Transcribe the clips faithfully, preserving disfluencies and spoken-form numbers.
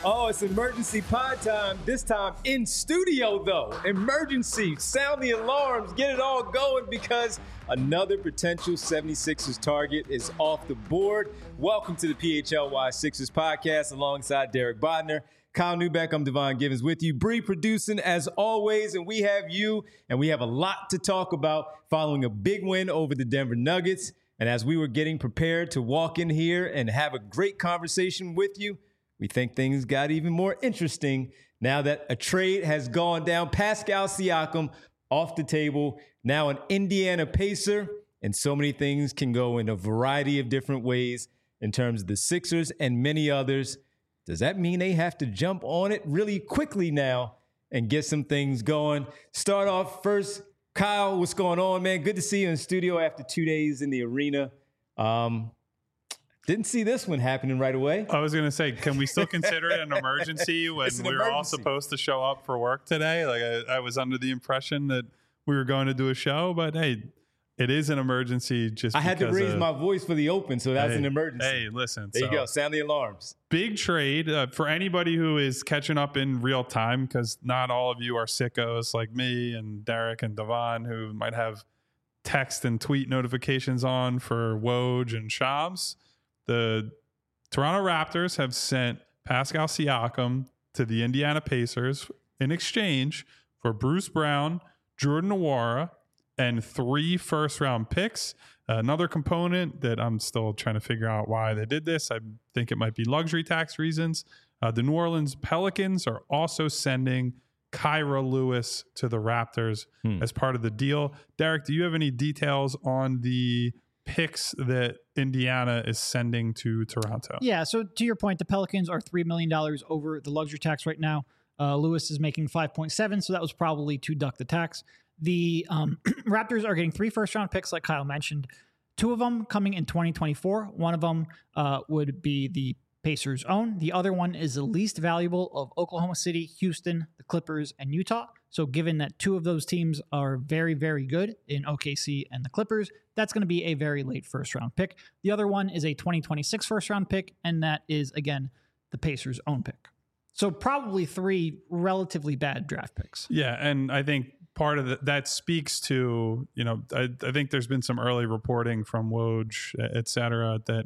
Oh, it's emergency pod time. This time in studio, though. Emergency. Sound the alarms. Get it all going because another potential seventy-sixers target is off the board. Welcome to the P H L Y Sixers podcast alongside Derek Bodner. Kyle Newbeck, I'm Devon Givens with you. Bree producing as always, and we have you, and we have a lot to talk about following a big win over the Denver Nuggets. And as we were getting prepared to walk in here and have a great conversation with you, we think things got even more interesting now that a trade has gone down. Pascal Siakam off the table, now an Indiana Pacer, and so many things can go in a variety of different ways in terms of the Sixers and many others. Does that mean they have to jump on it really quickly now and get some things going? Start off first, Kyle, what's going on, man? Good to see you in the studio after two days in the arena. Um, Didn't see this one happening right away. I was going to say, can we still consider it an emergency when an we were emergency. all supposed to show up for work today? Like I, I was under the impression that we were going to do a show, but hey, it is an emergency. Just I had to raise of, my voice for the open, so that's hey, an emergency. Hey, listen. There so, you go. Sound the alarms. Big trade uh, for anybody who is catching up in real time, because not all of you are sickos like me and Derek and Devon who might have text and tweet notifications on for Woj and Shams. The Toronto Raptors have sent Pascal Siakam to the Indiana Pacers in exchange for Bruce Brown, Jordan Nwora, and three first-round picks. Uh, another component that I'm still trying to figure out why they did this, I think it might be luxury tax reasons. Uh, the New Orleans Pelicans are also sending Kyra Lewis to the Raptors hmm. as part of the deal. Derek, do you have any details on the picks that Indiana is sending to Toronto? Yeah, so to your point, the Pelicans are three million dollars over the luxury tax right now. Uh, Lewis is making five point seven, so that was probably to duck the tax. The um, Raptors are getting three first-round picks, like Kyle mentioned. Two of them coming in twenty twenty-four. One of them uh, would be the Pacers' own. The other one is the least valuable of Oklahoma City, Houston, the Clippers, and Utah. So given that two of those teams are very, very good in O K C and the Clippers, that's going to be a very late first-round pick. The other one is a twenty twenty-six first-round pick, and that is, again, the Pacers' own pick. So probably three relatively bad draft picks. Yeah, and I think part of the, that speaks to, you know, I, I think there's been some early reporting from Woj, et cetera, that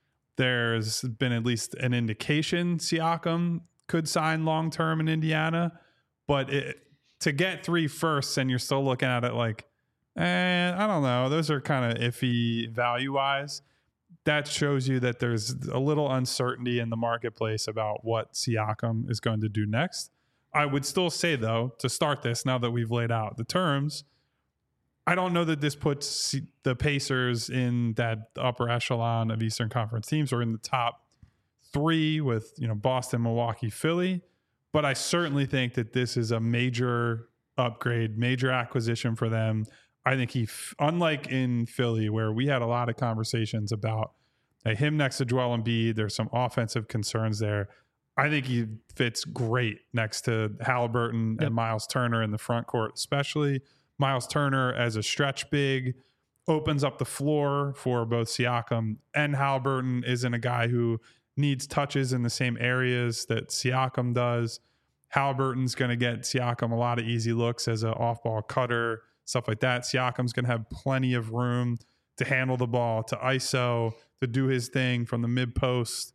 there's been at least an indication Siakam could sign long-term in Indiana, but it, to get three firsts and you're still looking at it like, eh, I don't know, those are kind of iffy value-wise. That shows you that there's a little uncertainty in the marketplace about what Siakam is going to do next. I would still say, though, to start this, now that we've laid out the terms, I don't know that this puts the Pacers in that upper echelon of Eastern Conference teams or in the top three with, you know, Boston, Milwaukee, Philly. But I certainly think that this is a major upgrade, major acquisition for them. I think he, unlike in Philly, where we had a lot of conversations about uh, him next to Joel Embiid, there's some offensive concerns there. I think he fits great next to Halliburton yep. and Miles Turner in the front court, especially Miles Turner as a stretch big, opens up the floor for both Siakam and Halliburton. Isn't a guy who needs touches in the same areas that Siakam does. Halliburton's going to get Siakam a lot of easy looks as an off-ball cutter, stuff like that. Siakam's going to have plenty of room to handle the ball, to I S O, to do his thing from the mid-post.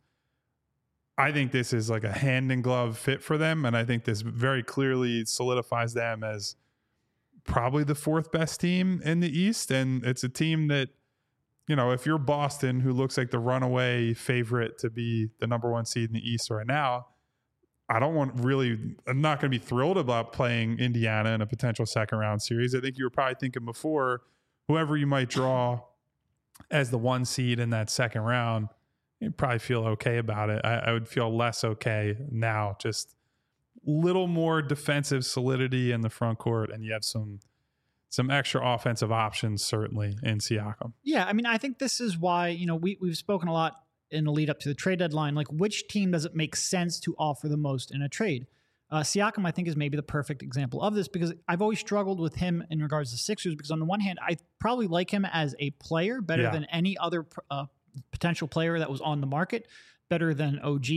I think this is like a hand-in-glove fit for them, and I think this very clearly solidifies them as probably the fourth best team in the East, and it's a team that, you know, if you're Boston, who looks like the runaway favorite to be the number one seed in the East right now, I don't want really, I'm not going to be thrilled about playing Indiana in a potential second round series. I think you were probably thinking before, whoever you might draw as the one seed in that second round, you'd probably feel okay about it. I, I would feel less okay now, just little more defensive solidity in the front court, and you have some some extra offensive options certainly in Siakam. Yeah, I mean, I think this is why, you know, we, we've spoken a lot in the lead up to the trade deadline, like which team does it make sense to offer the most in a trade? Uh, Siakam, I think, is maybe the perfect example of this because I've always struggled with him in regards to Sixers because on the one hand, I probably like him as a player better yeah. than any other uh, potential player that was on the market, better than O G,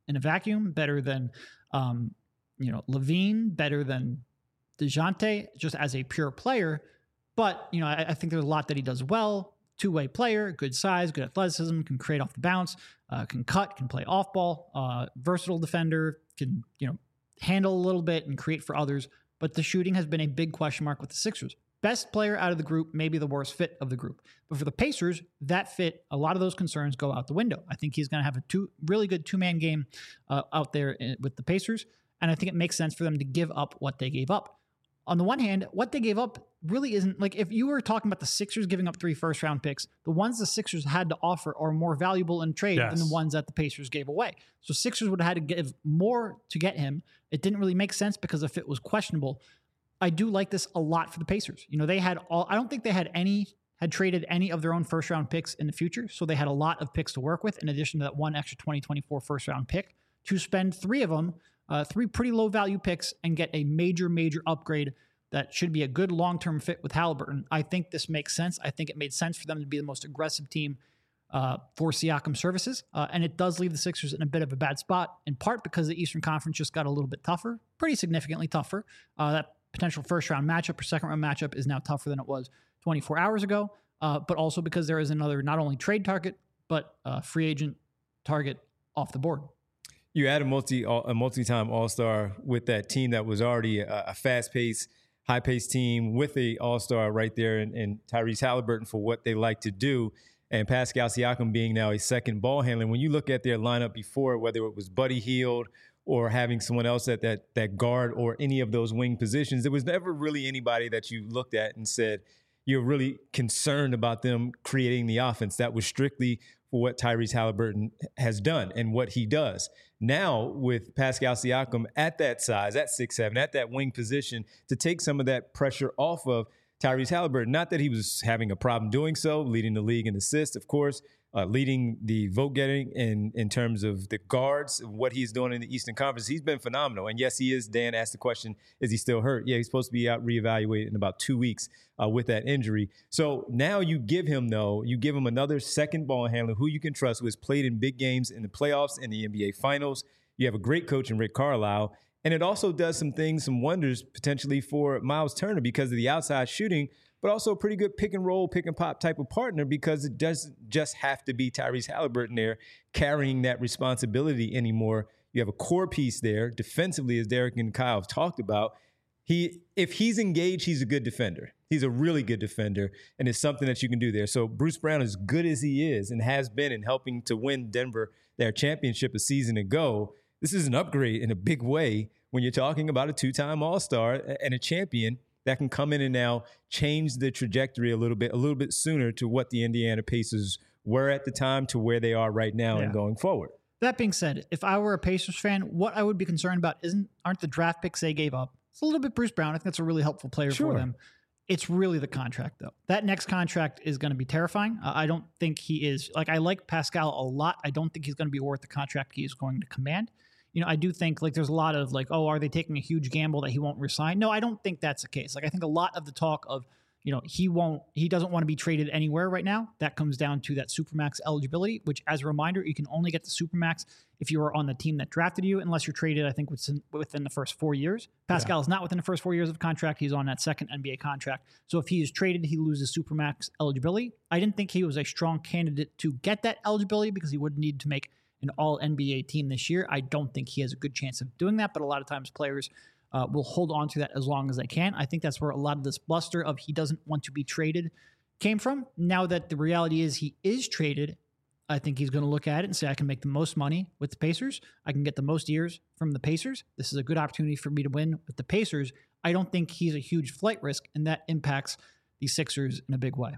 in a vacuum, better than, um, you know, Levine, better than DeJounte, just as a pure player. But, you know, I, I think there's a lot that he does well. Two-way player, good size, good athleticism, can create off the bounce, uh, can cut, can play off ball, uh, versatile defender, can, you know, handle a little bit and create for others. But the shooting has been a big question mark with the Sixers. Best player out of the group, maybe the worst fit of the group. But for the Pacers, that fit, a lot of those concerns go out the window. I think he's going to have a two really good two-man game uh, out there in, with the Pacers. And I think it makes sense for them to give up what they gave up. On the one hand, what they gave up really isn't, like, if you were talking about the Sixers giving up three first round picks, the ones the Sixers had to offer are more valuable in trade yes. than the ones that the Pacers gave away. So Sixers would have had to give more to get him. It didn't really make sense because the fit was questionable. I do like this a lot for the Pacers. You know, they had all, I don't think they had any, had traded any of their own first round picks in the future. So they had a lot of picks to work with in addition to that one extra twenty twenty-four first round pick to spend three of them, uh, three pretty low value picks and get a major, major upgrade that should be a good long-term fit with Halliburton. I think this makes sense. I think it made sense for them to be the most aggressive team uh, for Siakam services. Uh, and it does leave the Sixers in a bit of a bad spot, in part because the Eastern Conference just got a little bit tougher, pretty significantly tougher. Uh, that potential first-round matchup or second-round matchup is now tougher than it was twenty-four hours ago, uh, but also because there is another not only trade target, but uh, free agent target off the board. You add a multi a multi-time All-Star with that team that was already a, a fast-paced, high-paced team with a All-Star right there and, and Tyrese Halliburton for what they like to do, and Pascal Siakam being now a second ball handler. When you look at their lineup before, whether it was Buddy Hield or having someone else at that that guard or any of those wing positions, there was never really anybody that you looked at and said, you're really concerned about them creating the offense. That was strictly for what Tyrese Halliburton has done and what he does. Now, with Pascal Siakam at that size, at six seven, at that wing position, to take some of that pressure off of Tyrese Halliburton, not that he was having a problem doing so, leading the league in assists, of course, uh, leading the vote getting in, in terms of the guards, what he's doing in the Eastern Conference. He's been phenomenal. And yes, he is. Dan asked the question, is he still hurt? Yeah, he's supposed to be out reevaluated in about two weeks uh, with that injury. So now you give him, though, you give him another second ball handler who you can trust, who has played in big games in the playoffs and the N B A Finals. You have a great coach in Rick Carlisle. And it also does some things, some wonders potentially for Miles Turner because of the outside shooting, but also a pretty good pick and roll, pick and pop type of partner because it doesn't just have to be Tyrese Halliburton there carrying that responsibility anymore. You have a core piece there defensively, as Derek and Kyle have talked about. He, if he's engaged, he's a good defender. He's a really good defender, and it's something that you can do there. So Bruce Brown, as good as he is and has been in helping to win Denver their championship a season ago, this is an upgrade in a big way when you're talking about a two-time All-Star and a champion that can come in and now change the trajectory a little bit, a little bit sooner to what the Indiana Pacers were at the time to where they are right now yeah. and going forward. That being said, if I were a Pacers fan, what I would be concerned about isn't aren't the draft picks they gave up. It's a little bit Bruce Brown. I think that's a really helpful player sure. for them. It's really the contract, though. That next contract is going to be terrifying. Uh, I don't think he is. Like, I like Pascal a lot. I don't think he's going to be worth the contract he is going to command. You know, I do think, like, there's a lot of, like, oh, are they taking a huge gamble that he won't resign? No, I don't think that's the case. Like, I think a lot of the talk of, you know, he won't, he doesn't want to be traded anywhere right now. That comes down to that Supermax eligibility, which, as a reminder, you can only get the Supermax if you are on the team that drafted you, unless you're traded, I think, within, within the first four years. Pascal yeah. is not within the first four years of contract. He's on that second N B A contract. So if he is traded, he loses Supermax eligibility. I didn't think he was a strong candidate to get that eligibility because he would need to make an all N B A team this year. I don't think he has a good chance of doing that, but a lot of times players uh, will hold on to that as long as they can. I think that's where a lot of this bluster of he doesn't want to be traded came from. Now that the reality is he is traded, I think he's going to look at it and say, I can make the most money with the Pacers. I can get the most years from the Pacers. This is a good opportunity for me to win with the Pacers. I don't think he's a huge flight risk, and that impacts the Sixers in a big way.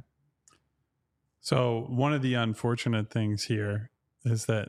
So one of the unfortunate things here is that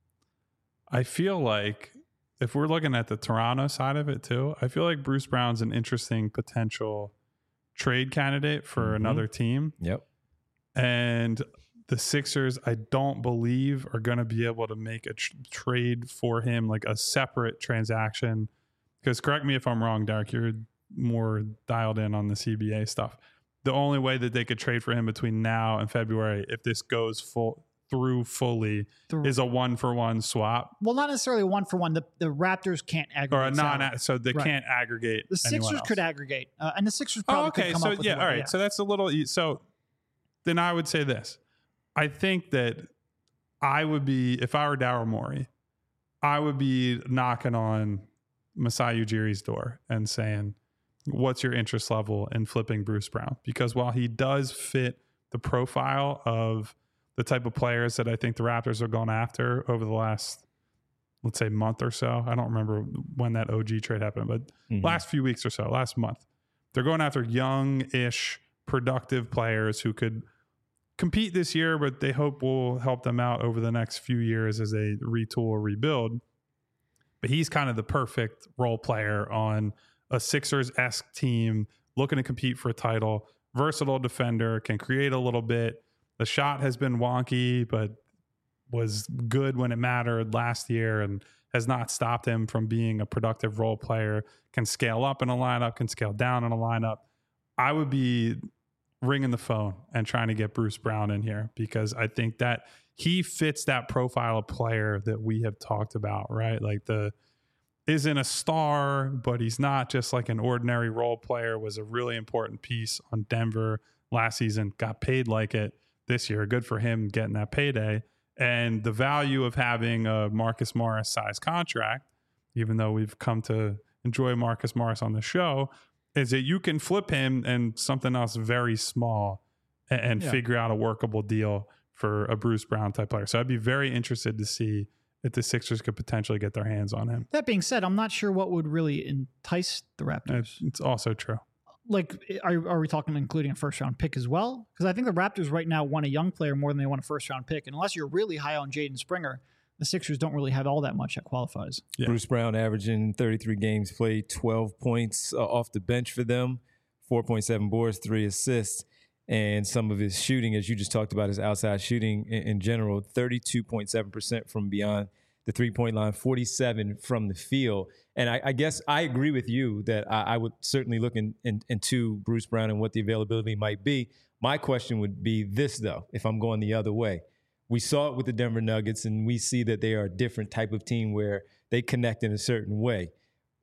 I feel like if we're looking at the Toronto side of it too, I feel like Bruce Brown's an interesting potential trade candidate for mm-hmm. another team. Yep. And the Sixers, I don't believe, are going to be able to make a tr- trade for him, like a separate transaction. Because correct me if I'm wrong, Derek, you're more dialed in on the C B A stuff. The only way that they could trade for him between now and February, if this goes full through fully The- is a one for one swap Well, not necessarily one for one. The the Raptors can't aggregate. or a non, salary. so they Right. can't aggregate. The anyone Sixers else. could aggregate, uh, and the Sixers probably Oh, okay. could come So up with yeah, a way, all right. yeah. So that's a little. e- So then I would say this. I think that I would be, if I were Daryl Morey, I would be knocking on Masai Ujiri's door and saying, "What's your interest level in flipping Bruce Brown?" Because while he does fit the profile of the type of players that I think the Raptors are going after over the last, let's say, month or so. I don't remember when that O G trade happened, but Mhm. last few weeks or so, last month, they're going after young-ish, productive players who could compete this year, but they hope will help them out over the next few years as they retool or rebuild. But he's kind of the perfect role player on a Sixers-esque team looking to compete for a title. Versatile defender, can create a little bit. The shot has been wonky, but was good when it mattered last year and has not stopped him from being a productive role player. Can scale up in a lineup, can scale down in a lineup. I would be ringing the phone and trying to get Bruce Brown in here because I think that he fits that profile of player that we have talked about, right? Like the isn't a star, but he's not just like an ordinary role player, was a really important piece on Denver last season, got paid like it this year. Good for him getting that payday. And the value of having a Marcus Morris size contract, even though we've come to enjoy Marcus Morris on the show, is that you can flip him and something else very small and, and Yeah. figure out a workable deal for a Bruce Brown type player. So I'd be very interested to see if the Sixers could potentially get their hands on him. That being said, I'm not sure what would really entice the Raptors. It's, it's also true. Like, are, are we talking including a first round pick as well? Because I think the Raptors right now want a young player more than they want a first round pick. And unless you're really high on Jaden Springer, the Sixers don't really have all that much that qualifies. Yeah. Bruce Brown averaging thirty-three games played, twelve points uh, off the bench for them, four point seven boards, three assists. And some of his shooting, as you just talked about, his outside shooting in, in general, thirty-two point seven percent from beyond the three-point line, forty-seven from the field. And I, I guess I agree with you that I, I would certainly look in, in, into Bruce Brown and what the availability might be. My question would be this, though, if I'm going the other way. We saw it with the Denver Nuggets, and we see that they are a different type of team where they connect in a certain way.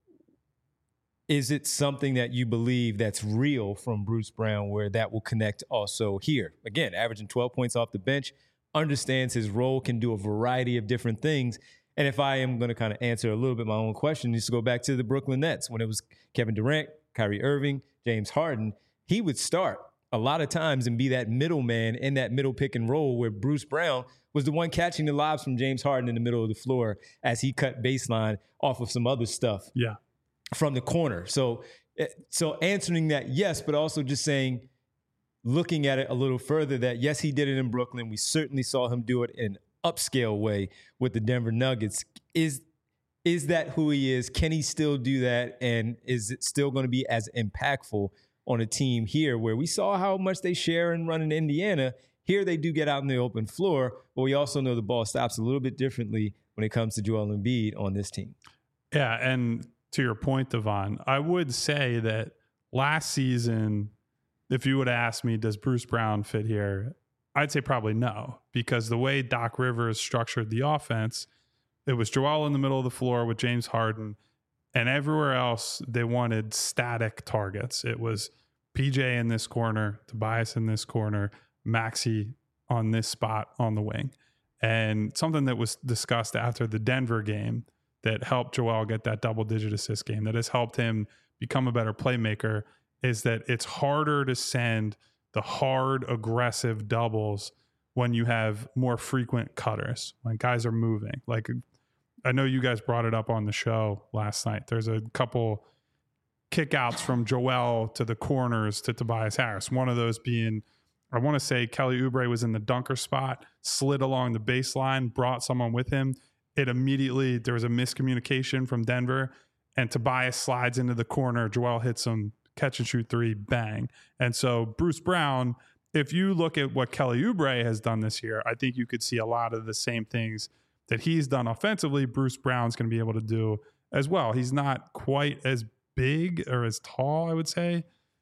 Is it something that you believe that's real from Bruce Brown where that will connect also here? Again, averaging twelve points off the bench, understands his role, can do a variety of different things. And if I am going to kind of answer a little bit my own question, just to go back to the Brooklyn Nets, when it was Kevin Durant, Kyrie Irving, James Harden, he would start a lot of times and be that middleman in that middle pick and roll where Bruce Brown was the one catching the lobs from James Harden in the middle of the floor as he cut baseline off of some other stuff Yeah. from the corner. So, so answering that, yes, but also just saying, looking at it a little further, that yes, he did it in Brooklyn. We certainly saw him do it in an upscale way with the Denver Nuggets. Is is that who he is? Can he still do that? And is it still going to be as impactful on a team here where we saw how much they share and run in Indiana? Here they do get out in the open floor, but we also know the ball stops a little bit differently when it comes to Joel Embiid on this team. Yeah, and to your point, Devon, I would say that last season, if you would have asked me, does Bruce Brown fit here? I'd say probably no, because the way Doc Rivers structured the offense, it was Joel in the middle of the floor with James Harden, and everywhere else they wanted static targets. It was P J in this corner, Tobias in this corner, Maxey on this spot on the wing. And something that was discussed after the Denver game that helped Joel get that double-digit assist game, that has helped him become a better playmaker, is that it's harder to send the hard, aggressive doubles when you have more frequent cutters, when guys are moving. Like, I know you guys brought it up on the show last night. There's a couple kickouts from Joel to the corners to Tobias Harris. One of those being, I want to say Kelly Oubre was in the dunker spot, slid along the baseline, brought someone with him. It immediately, there was a miscommunication from Denver, and Tobias slides into the corner. Joel hits him, catch and shoot three, bang. And so Bruce Brown, if you look at what Kelly Oubre has done this year, I think you could see a lot of the same things that he's done offensively, Bruce Brown's going to be able to do as well. He's not quite as big or as tall, I would say,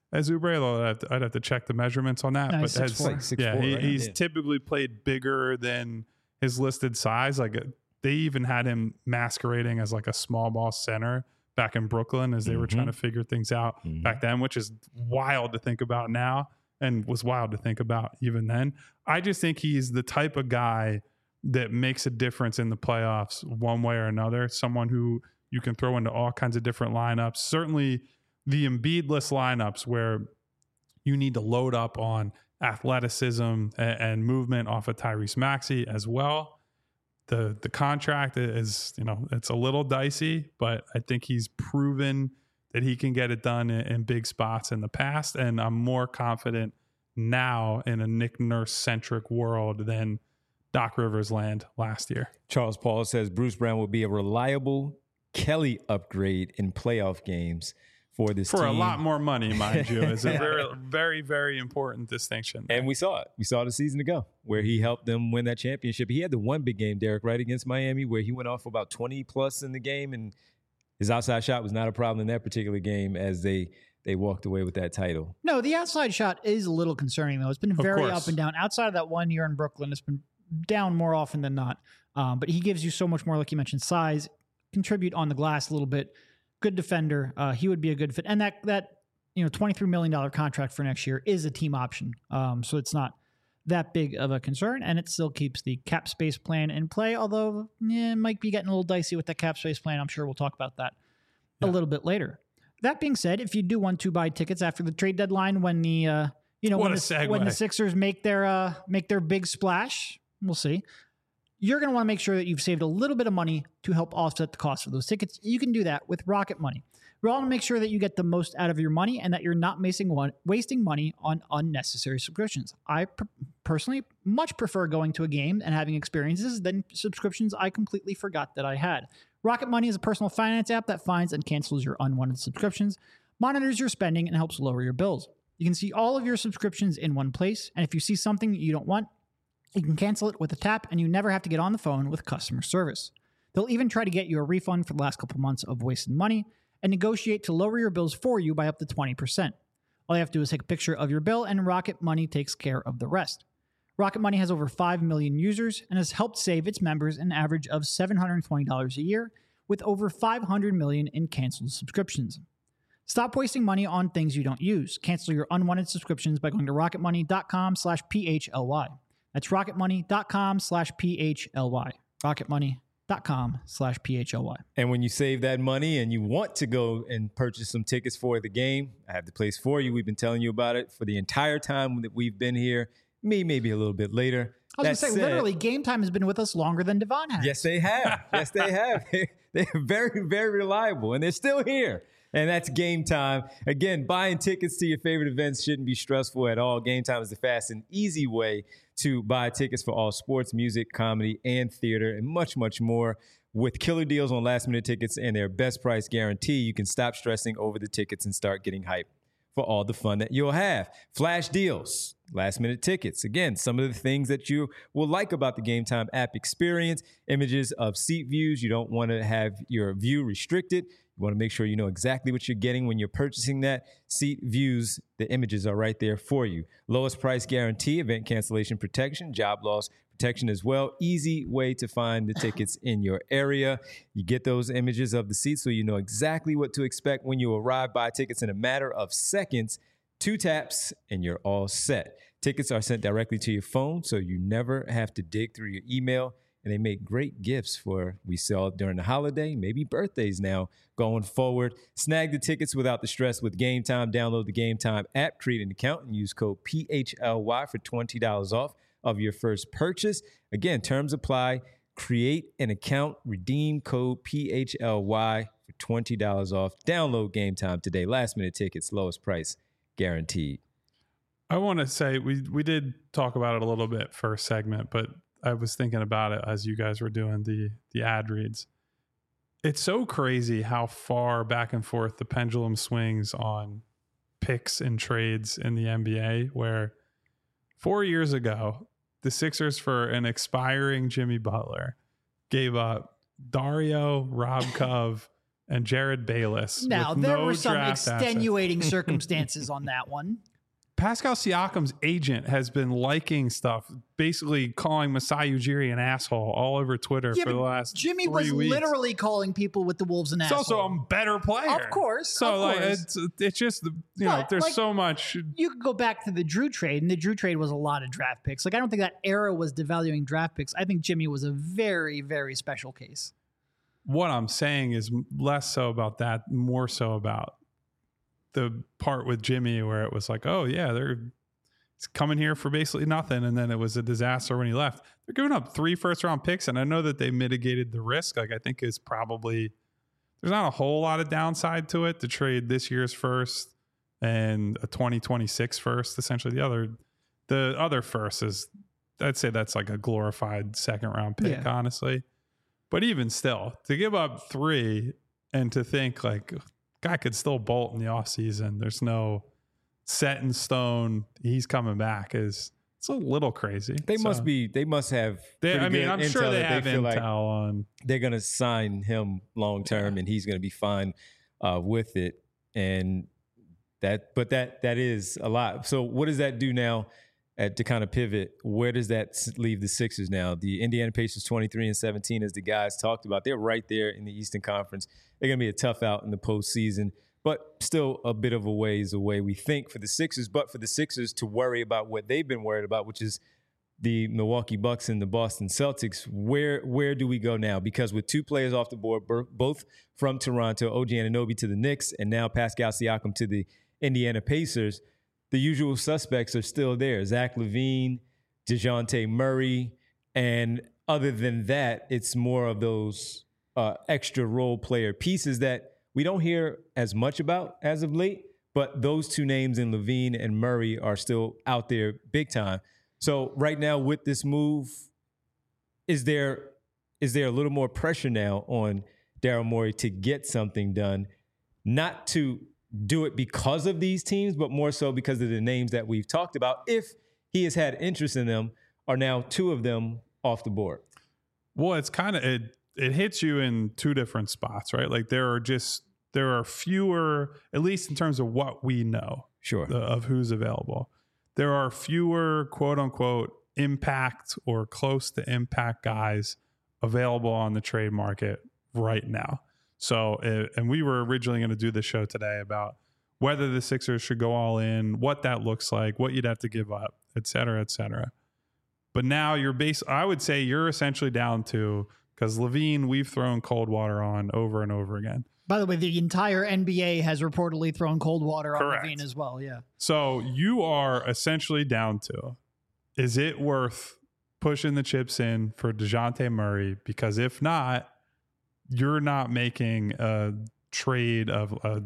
as Oubre. Although I'd have to, I'd have to check the measurements on that. No, but he's six has, four. Like six yeah, four, he, right? he's Yeah. typically played bigger than his listed size. Like they even had him masquerading as like a small ball center back in Brooklyn as they were Mhm. trying to figure things out Mhm. back then, which is wild to think about now and was wild to think about even then. I just think he's the type of guy that makes a difference in the playoffs one way or another. Someone who you can throw into all kinds of different lineups. Certainly the Embiid-less lineups where you need to load up on athleticism and, and movement off of Tyrese Maxey as well. The the contract is, you know, it's a little dicey, but I think he's proven that he can get it done in, in big spots in the past. And I'm more confident now in a Nick Nurse-centric world than Doc Rivers land last year. Charles Paul says Bruce Brown will be a reliable Kelly upgrade in playoff games for this For team. a lot more money, mind you. It's a very, very, very important distinction. And we saw it. We saw it a season ago where he helped them win that championship. He had the one big game, Derek, right, against Miami where he went off for about twenty plus in the game, and his outside shot was not a problem in that particular game as they they walked away with that title. No, the outside shot is a little concerning, though. It's been very course. up and down. Outside of that one year in Brooklyn, it's been down more often than not. Um, but he gives you so much more, like you mentioned, size, contribute on the glass a little bit. Good defender. Uh, he would be a good fit. And that, that you know, twenty-three million dollars contract for next year is a team option. Um, so it's not that big of a concern, and it still keeps the cap space plan in play, although yeah, it might be getting a little dicey with the cap space plan. I'm sure we'll talk about that Yeah. a little bit later. That being said, if you do want to buy tickets after the trade deadline, when the uh, you know What when a the, when the segue. Sixers make their uh, make their big splash, we'll see. You're going to want to make sure that you've saved a little bit of money to help offset the cost of those tickets. You can do that with Rocket Money. We want to make sure that you get the most out of your money and that you're not wasting one, wasting money on unnecessary subscriptions. I per- personally much prefer going to a game and having experiences than subscriptions I completely forgot that I had. Rocket Money is a personal finance app that finds and cancels your unwanted subscriptions, monitors your spending, and helps lower your bills. You can see all of your subscriptions in one place, and if you see something you don't want, you can cancel it with a tap, and you never have to get on the phone with customer service. They'll even try to get you a refund for the last couple months of wasted money and negotiate to lower your bills for you by up to twenty percent. All you have to do is take a picture of your bill, and Rocket Money takes care of the rest. Rocket Money has over five million users and has helped save its members an average of seven hundred twenty dollars a year, with over five hundred million in canceled subscriptions. Stop wasting money on things you don't use. Cancel your unwanted subscriptions by going to rocketmoney.com slash PHLY. That's rocketmoney.com slash PHLY. rocketmoney.com slash PHLY. And when you save that money and you want to go and purchase some tickets for the game, I have the place for you. We've been telling you about it for the entire time that we've been here. Me, maybe a little bit later. I was going to That say, said- literally, Game Time has been with us longer than Devon has. Yes, they have. Yes, they have. They're very, very reliable, and they're still here. And that's Game Time. Again, buying tickets to your favorite events shouldn't be stressful at all. Game Time is the fast and easy way to buy tickets for all sports, music, comedy, and theater, and much, much more. With killer deals on last-minute tickets and their best price guarantee, you can stop stressing over the tickets and start getting hyped for all the fun that you'll have. Flash deals, last-minute tickets. Again, some of the things that you will like about the Game Time app experience, images of seat views. You don't want to have your view restricted. You want to make sure you know exactly what you're getting when you're purchasing that. Seat views, the images are right there for you. Lowest price guarantee, event cancellation protection, job loss protection as well. Easy way to find the tickets in your area. You get those images of the seats so you know exactly what to expect when you arrive. Buy tickets in a matter of seconds, two taps, and you're all set. Tickets are sent directly to your phone, so you never have to dig through your email. And they make great gifts for we sell during the holiday, maybe birthdays now going forward. Snag the tickets without the stress with Game Time. Download the Game Time app, create an account, and use code P H L Y for twenty dollars off of your first purchase. Again, terms apply. Create an account, redeem code P H L Y for twenty dollars off. Download Game Time today. Last minute tickets, lowest price guaranteed. I want to say we we did talk about it a little bit first segment, but I was thinking about it as you guys were doing the the ad reads. It's so crazy how far back and forth the pendulum swings on picks and trades in the N B A, where four years ago, the Sixers, for an expiring Jimmy Butler, gave up Dario, Rob Cove, and Jared Bayless. Now, with there no were some draft extenuating circumstances on that one. Pascal Siakam's agent has been liking stuff, basically calling Masai Ujiri an asshole all over Twitter Yeah, for the but last Jimmy three was weeks. literally calling people with the Wolves an It's asshole. also a better player. Of course, So of like course. it's it's just you know But, there's like, so much. You could go back to the Drew trade, and the Drew trade was a lot of draft picks. Like, I don't think that era was devaluing draft picks. I think Jimmy was a very, very special case. What I'm saying is less so about that, more so about the part with Jimmy where it was like, oh yeah, they're he's coming here for basically nothing, and then it was a disaster when he left. They're giving up three first round picks, and I know that they mitigated the risk. Like I think is probably there's not a whole lot of downside to it to trade this year's first and a twenty twenty-six first. Essentially, the other the other first is I'd say that's like a glorified second round pick, Yeah. honestly. But even still, to give up three and to think like guy could still bolt in the offseason, there's no set in stone, he's coming back is it's a little crazy. They So, must be. They must have. They, pretty I mean, good I'm intel sure they that have feel intel like on. they're going to sign him long term, and he's going to be fine uh, with it. And that, but that that is a lot. So what does that do now? At, to kind of pivot, where does that s- leave the Sixers now? The Indiana Pacers twenty-three and seventeen, as the guys talked about, they're right there in the Eastern Conference. They're going to be a tough out in the postseason, but still a bit of a ways away, we think, for the Sixers. But for the Sixers to worry about what they've been worried about, which is the Milwaukee Bucks and the Boston Celtics, where where do we go now? Because with two players off the board, bur- both from Toronto, O G Anunoby to the Knicks, and now Pascal Siakam to the Indiana Pacers, the usual suspects are still there. Zach LaVine, DeJounte Murray, and other than that, it's more of those uh, extra role player pieces that we don't hear as much about as of late, but those two names in LaVine and Murray are still out there big time. So right now with this move, is there is there a little more pressure now on Daryl Morey to get something done, not to do it because of these teams, but more so because of the names that we've talked about? If he has had interest in them, are now two of them off the board? Well, it's kind of it. It hits you in two different spots, right? Like there are just there are fewer, at least in terms of what we know, Sure. the, of who's available. There are fewer quote unquote impact or close to impact guys available on the trade market right now. So, uh, and we were originally going to do the show today about whether the Sixers should go all in, what that looks like, what you'd have to give up, et cetera, et cetera. But now you're base, I would say you're essentially down to, because LaVine, we've thrown cold water on over and over again. By the way, the entire N B A has reportedly thrown cold water on Correct. LaVine as well. Yeah. So you are essentially down to, is it worth pushing the chips in for DeJounte Murray? Because if not, you're not making a trade of a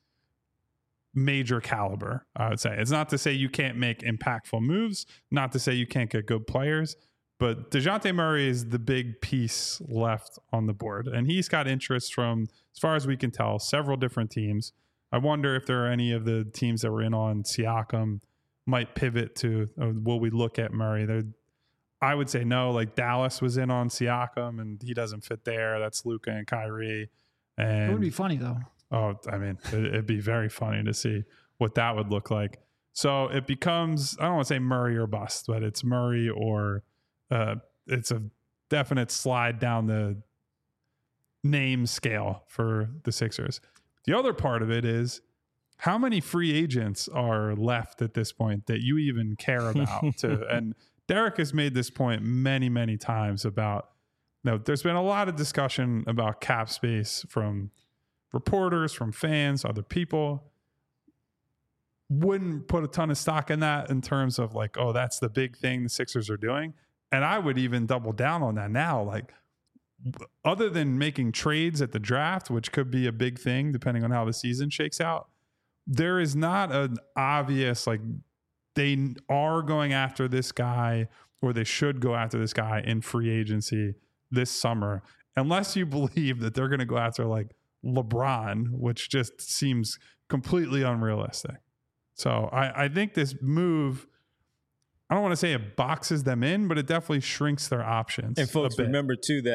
major caliber, I would say. It's not to say you can't make impactful moves, not to say you can't get good players, but DeJounte Murray is the big piece left on the board. And he's got interest from, as far as we can tell, several different teams. I wonder if there are any of the teams that were in on Siakam might pivot to, uh, will we look at Murray? They're, I would say no. Like Dallas was in on Siakam, and he doesn't fit there. That's Luka and Kyrie. And It would be funny, though. oh, I mean, it, it'd be very funny to see what that would look like. So it becomes, I don't want to say Murray or bust, but it's Murray or uh, it's a definite slide down the name scale for the Sixers. The other part of it is how many free agents are left at this point that you even care about to, and Derek has made this point many, many times about, you know, there's been a lot of discussion about cap space from reporters, from fans, other people. Wouldn't put a ton of stock in that in terms of like, oh, that's the big thing the Sixers are doing. And I would even double down on that now. Like, other than making trades at the draft, which could be a big thing depending on how the season shakes out, there is not an obvious, like, they are going after this guy or they should go after this guy in free agency this summer, unless you believe that they're going to go after like LeBron, which just seems completely unrealistic. So I, I think this move, I don't want to say it boxes them in, but it definitely shrinks their options. And folks, a bit. remember too that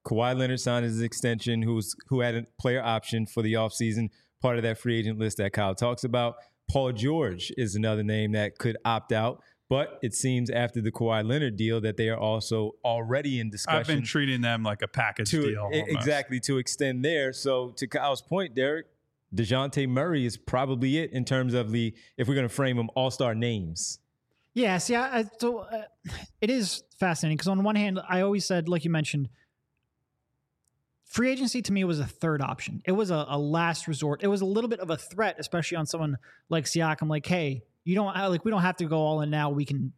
Kawhi Leonard signed his extension, who's who had a player option for the offseason, part of that free agent list that Kyle talks about. Paul George is another name that could opt out, but it seems after the Kawhi Leonard deal that they are also already in discussion. I've been treating them like a package to, deal. Almost. Exactly, to extend there. So to Kyle's point, Derek, DeJounte Murray is probably it in terms of the, if we're going to frame them, all-star names. Yes, yeah. I, so uh, it is fascinating because on one hand, I always said, like you mentioned, free agency to me was a third option. It was a, a last resort. It was a little bit of a threat, especially on someone like Siakam. Like, hey, you don't like we don't have to go all in now. We can,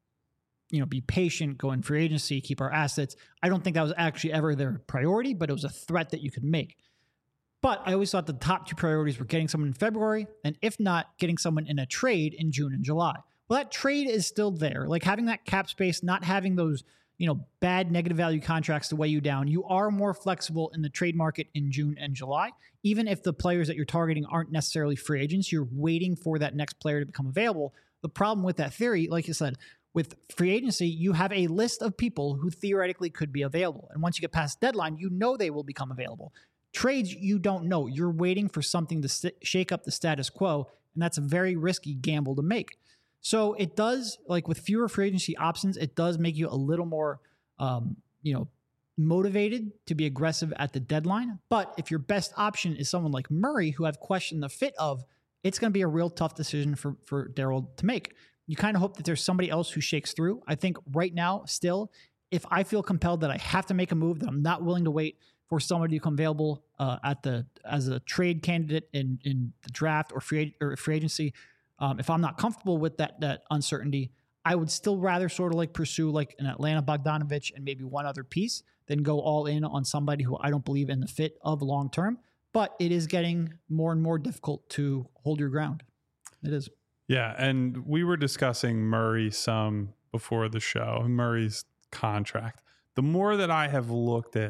you know, be patient, go in free agency, keep our assets. I don't think that was actually ever their priority, but it was a threat that you could make. But I always thought the top two priorities were getting someone in February, and if not, getting someone in a trade in June and July. Well, that trade is still there. Like having that cap space, not having those, you know, bad negative value contracts to weigh you down. You are more flexible in the trade market in June and July. Even if the players that you're targeting aren't necessarily free agents, you're waiting for that next player to become available. The problem with that theory, like you said, with free agency, you have a list of people who theoretically could be available. And once you get past deadline, you know they will become available. Trades, you don't know. You're waiting for something to st- shake up the status quo, and that's a very risky gamble to make. So it does, like with fewer free agency options, it does make you a little more, um, you know, motivated to be aggressive at the deadline. But if your best option is someone like Murray, who I've questioned the fit of, it's going to be a real tough decision for, for Daryl to make. You kind of hope that there's somebody else who shakes through. I think right now, still, if I feel compelled that I have to make a move, that I'm not willing to wait for somebody to come available uh, at the as a trade candidate in, in the draft or free or free agency, um, if I'm not comfortable with that that uncertainty, I would still rather sort of like pursue like an Atlanta Bogdanovich and maybe one other piece than go all in on somebody who I don't believe in the fit of long term. But it is getting more and more difficult to hold your ground. It is. Yeah, and we were discussing Murray some before the show, Murray's contract. The more that I have looked at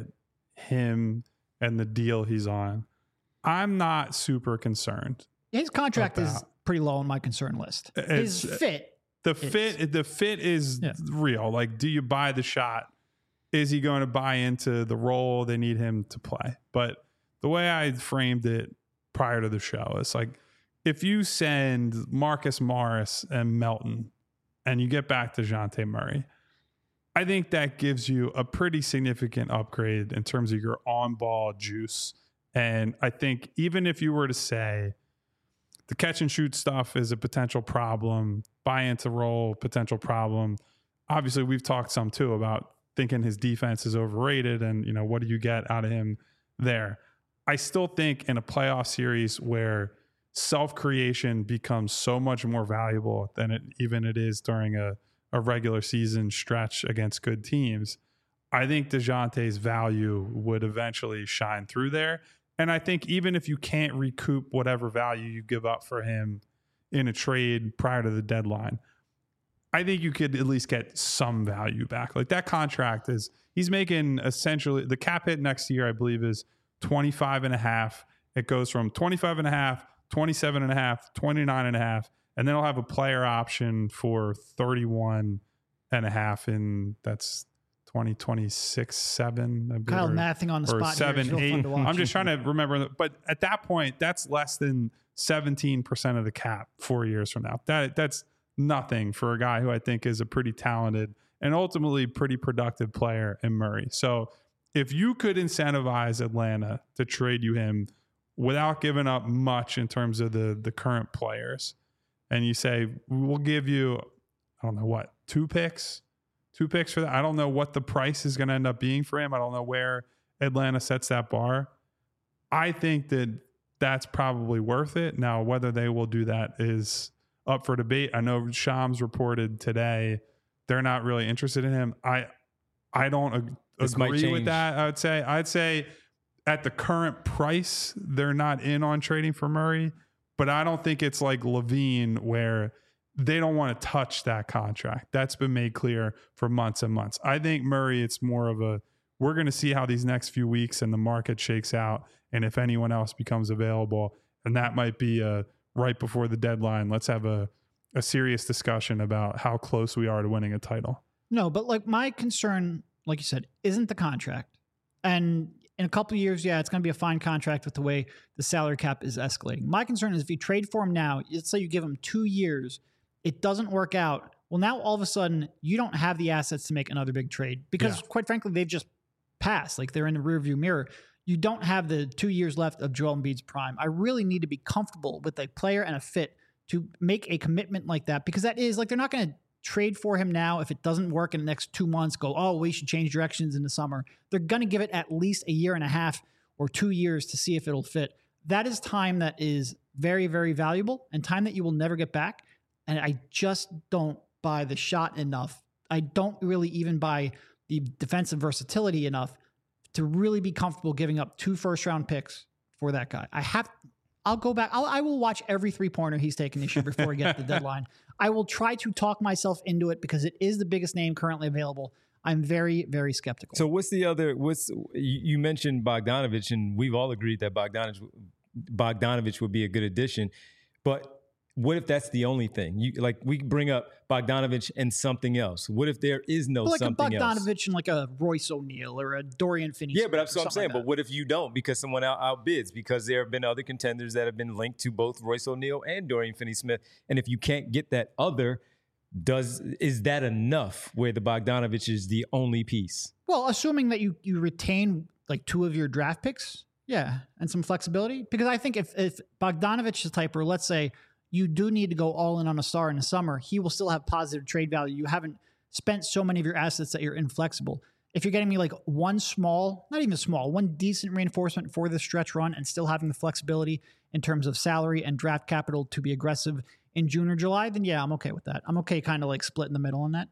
him and the deal he's on, I'm not super concerned. His contract about. is pretty low on my concern list. His it's, fit. The is. fit the fit is yeah. real. Like, do you buy the shot? Is he going to buy into the role they need him to play? But the way I framed it prior to the show is like, if you send Marcus Morris and Melton and you get back to DeJounte Murray, I think that gives you a pretty significant upgrade in terms of your on-ball juice. And I think even if you were to say the catch and shoot stuff is a potential problem, buy into role, potential problem. Obviously, we've talked some too about thinking his defense is overrated and, you know, what do you get out of him there? I still think in a playoff series where self-creation becomes so much more valuable than it even it is during a, a regular season stretch against good teams, I think DeJounte's value would eventually shine through there. And I think even if you can't recoup whatever value you give up for him in a trade prior to the deadline, I think you could at least get some value back. Like that contract is, he's making essentially, the cap hit next year, I believe, is twenty-five and a half. It goes from twenty-five and a half, twenty-seven and a half, twenty-nine and a half, and then I'll have a player option for thirty-one and a half, and that's twenty twenty-six, seven. I believe, Kyle or, mathing on the or spot. seven, here. eight. To I'm just trying to remember, but at that point, that's less than seventeen percent of the cap four years from now. That that's nothing for a guy who I think is a pretty talented and ultimately pretty productive player in Murray. So if you could incentivize Atlanta to trade you him without giving up much in terms of the the current players, and you say, we'll give you, I don't know what, two picks, two picks for that. I don't know what the price is going to end up being for him. I don't know where Atlanta sets that bar. I think that that's probably worth it. Now, whether they will do that is up for debate. I know Shams reported today they're not really interested in him. I I don't ag- agree with that. I would say I'd say at the current price, they're not in on trading for Murray, but I don't think it's like Levine where they don't want to touch that contract. That's been made clear for months and months. I think Murray, it's more of a, we're going to see how these next few weeks and the market shakes out, and if anyone else becomes available, and that might be a right before the deadline, let's have a, a serious discussion about how close we are to winning a title. No, but like my concern, like you said, isn't the contract. And in a couple of years, yeah, it's going to be a fine contract with the way the salary cap is escalating. My concern is if you trade for him now, let's say you give him two years, it doesn't work out. Well, now all of a sudden, you don't have the assets to make another big trade because, yeah. quite frankly, they've just passed. Like they're in the rearview mirror. You don't have the two years left of Joel Embiid's prime. I really need to be comfortable with a player and a fit to make a commitment like that, because that is like they're not going to trade for him now if it doesn't work in the next two months, go, oh, we should change directions in the summer. They're going to give it at least a year and a half or two years to see if it'll fit. That is time that is very, very valuable and time that you will never get back. And I just don't buy the shot enough. I don't really even buy the defensive versatility enough to really be comfortable giving up two first round picks for that guy. I have, I'll go back. I'll, I will watch every three pointer he's taken this year before he gets to the deadline. I will try to talk myself into it because it is the biggest name currently available. I'm very, very skeptical. So what's the other, what's, you mentioned Bogdanovich, and we've all agreed that Bogdanovich, Bogdanovich would be a good addition, but what if that's the only thing? You like we bring up Bogdanovich and something else. What if there is no like something a Bogdanovich else? and like a Royce O'Neal or a Dorian Finney? Yeah, but that's what I'm saying. Like but what if you don't because someone out outbids? Because there have been other contenders that have been linked to both Royce O'Neal and Dorian Finney-Smith. And if you can't get that other, does is that enough where the Bogdanovich is the only piece? Well, assuming that you you retain like two of your draft picks, yeah, and some flexibility. Because I think if if Bogdanovich is the type where, let's say, you do need to go all in on a star in the summer, he will still have positive trade value. You haven't spent so many of your assets that you're inflexible. If you're getting me like one small, not even small, one decent reinforcement for the stretch run and still having the flexibility in terms of salary and draft capital to be aggressive in June or July, then yeah, I'm okay with that. I'm okay kind of like split in the middle on that.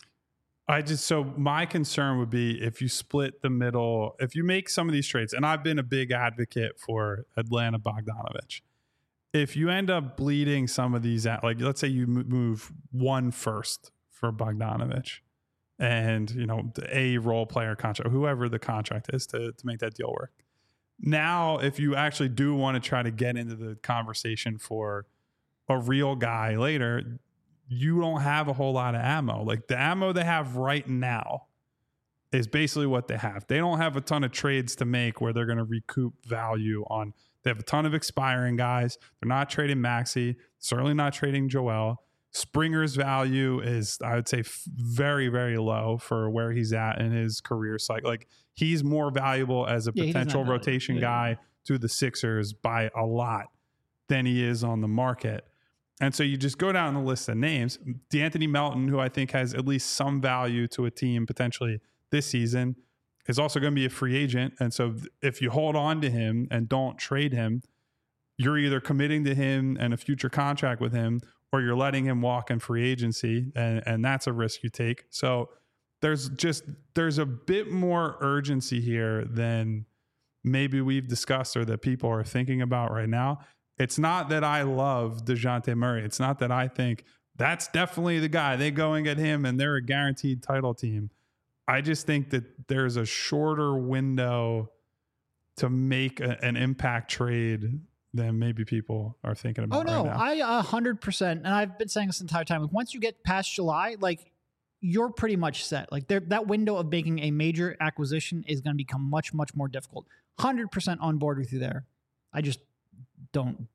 I just, so my concern would be if you split the middle, if you make some of these trades, and I've been a big advocate for Atlanta Bogdanovich. If you end up bleeding some of these out, like let's say you move one first for Bogdanovich and, you know, a role player contract, whoever the contract is to, to make that deal work. Now, if you actually do want to try to get into the conversation for a real guy later, you don't have a whole lot of ammo. Like the ammo they have right now is basically what they have. They don't have a ton of trades to make where they're going to recoup value on. They have a ton of expiring guys. They're not trading Maxey, certainly not trading Joel. Springer's value is, I would say, f- very, very low for where he's at in his career cycle. Like he's more valuable as a yeah, potential rotation yeah. guy to the Sixers by a lot than he is on the market. And so you just go down the list of names. D'Anthony Melton, who I think has at least some value to a team potentially this season, is also going to be a free agent. And so if you hold on to him and don't trade him, you're either committing to him and a future contract with him, or you're letting him walk in free agency. And, and that's a risk you take. So there's just, there's a bit more urgency here than maybe we've discussed or that people are thinking about right now. It's not that I love DeJounte Murray. It's not that I think that's definitely the guy. They go and get him and they're a guaranteed title team. I just think that there's a shorter window to make a, an impact trade than maybe people are thinking about. Oh no, right now. I a hundred percent, and I've been saying this entire time. Like once you get past July, like you're pretty much set. Like there, that window of making a major acquisition is going to become much, much more difficult. Hundred percent on board with you there. I just don't.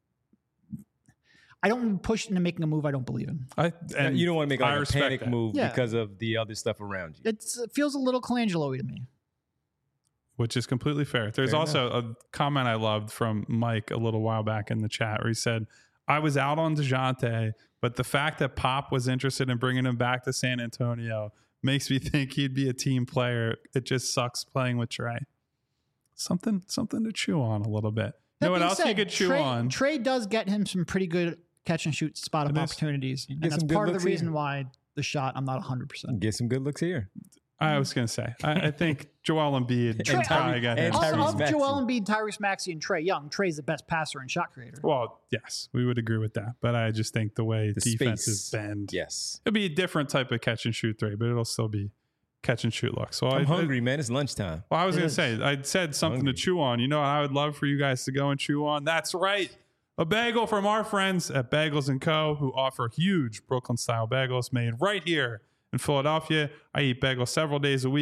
I don't push into making a move I don't believe in. I, and you don't want to make like a panic that. move yeah. because of the other stuff around you. It's, it feels a little Colangelo-y to me. Which is completely fair. There's fair also enough. a comment I loved from Mike a little while back in the chat where he said, I was out on DeJounte, but the fact that Pop was interested in bringing him back to San Antonio makes me think he'd be a team player. It just sucks playing with Trey. Something, something to chew on a little bit. You know what else said, you could chew Trey, on? Trey does get him some pretty good catch and shoot spot up opportunities. And that's part of the reason here. why the shot, I'm not one hundred percent. Get some good looks here. I was going to say, I, I think Joel Embiid Trey, probably got him. Of Joel Embiid, Tyrese Maxey, and Trey Young, Trey's the best passer and shot creator. Well, yes, we would agree with that. But I just think the way the defenses space. bend, yes, it'll be a different type of catch and shoot three, but it'll still be catch and shoot look. So I'm I, hungry, I, man. It's lunchtime. Well, I was going to say, I said something to chew on. You know, I would love for you guys to go and chew on. That's right. A bagel from our friends at Bagels and Co., who offer huge Brooklyn-style bagels made right here in Philadelphia. I eat bagels several days a week.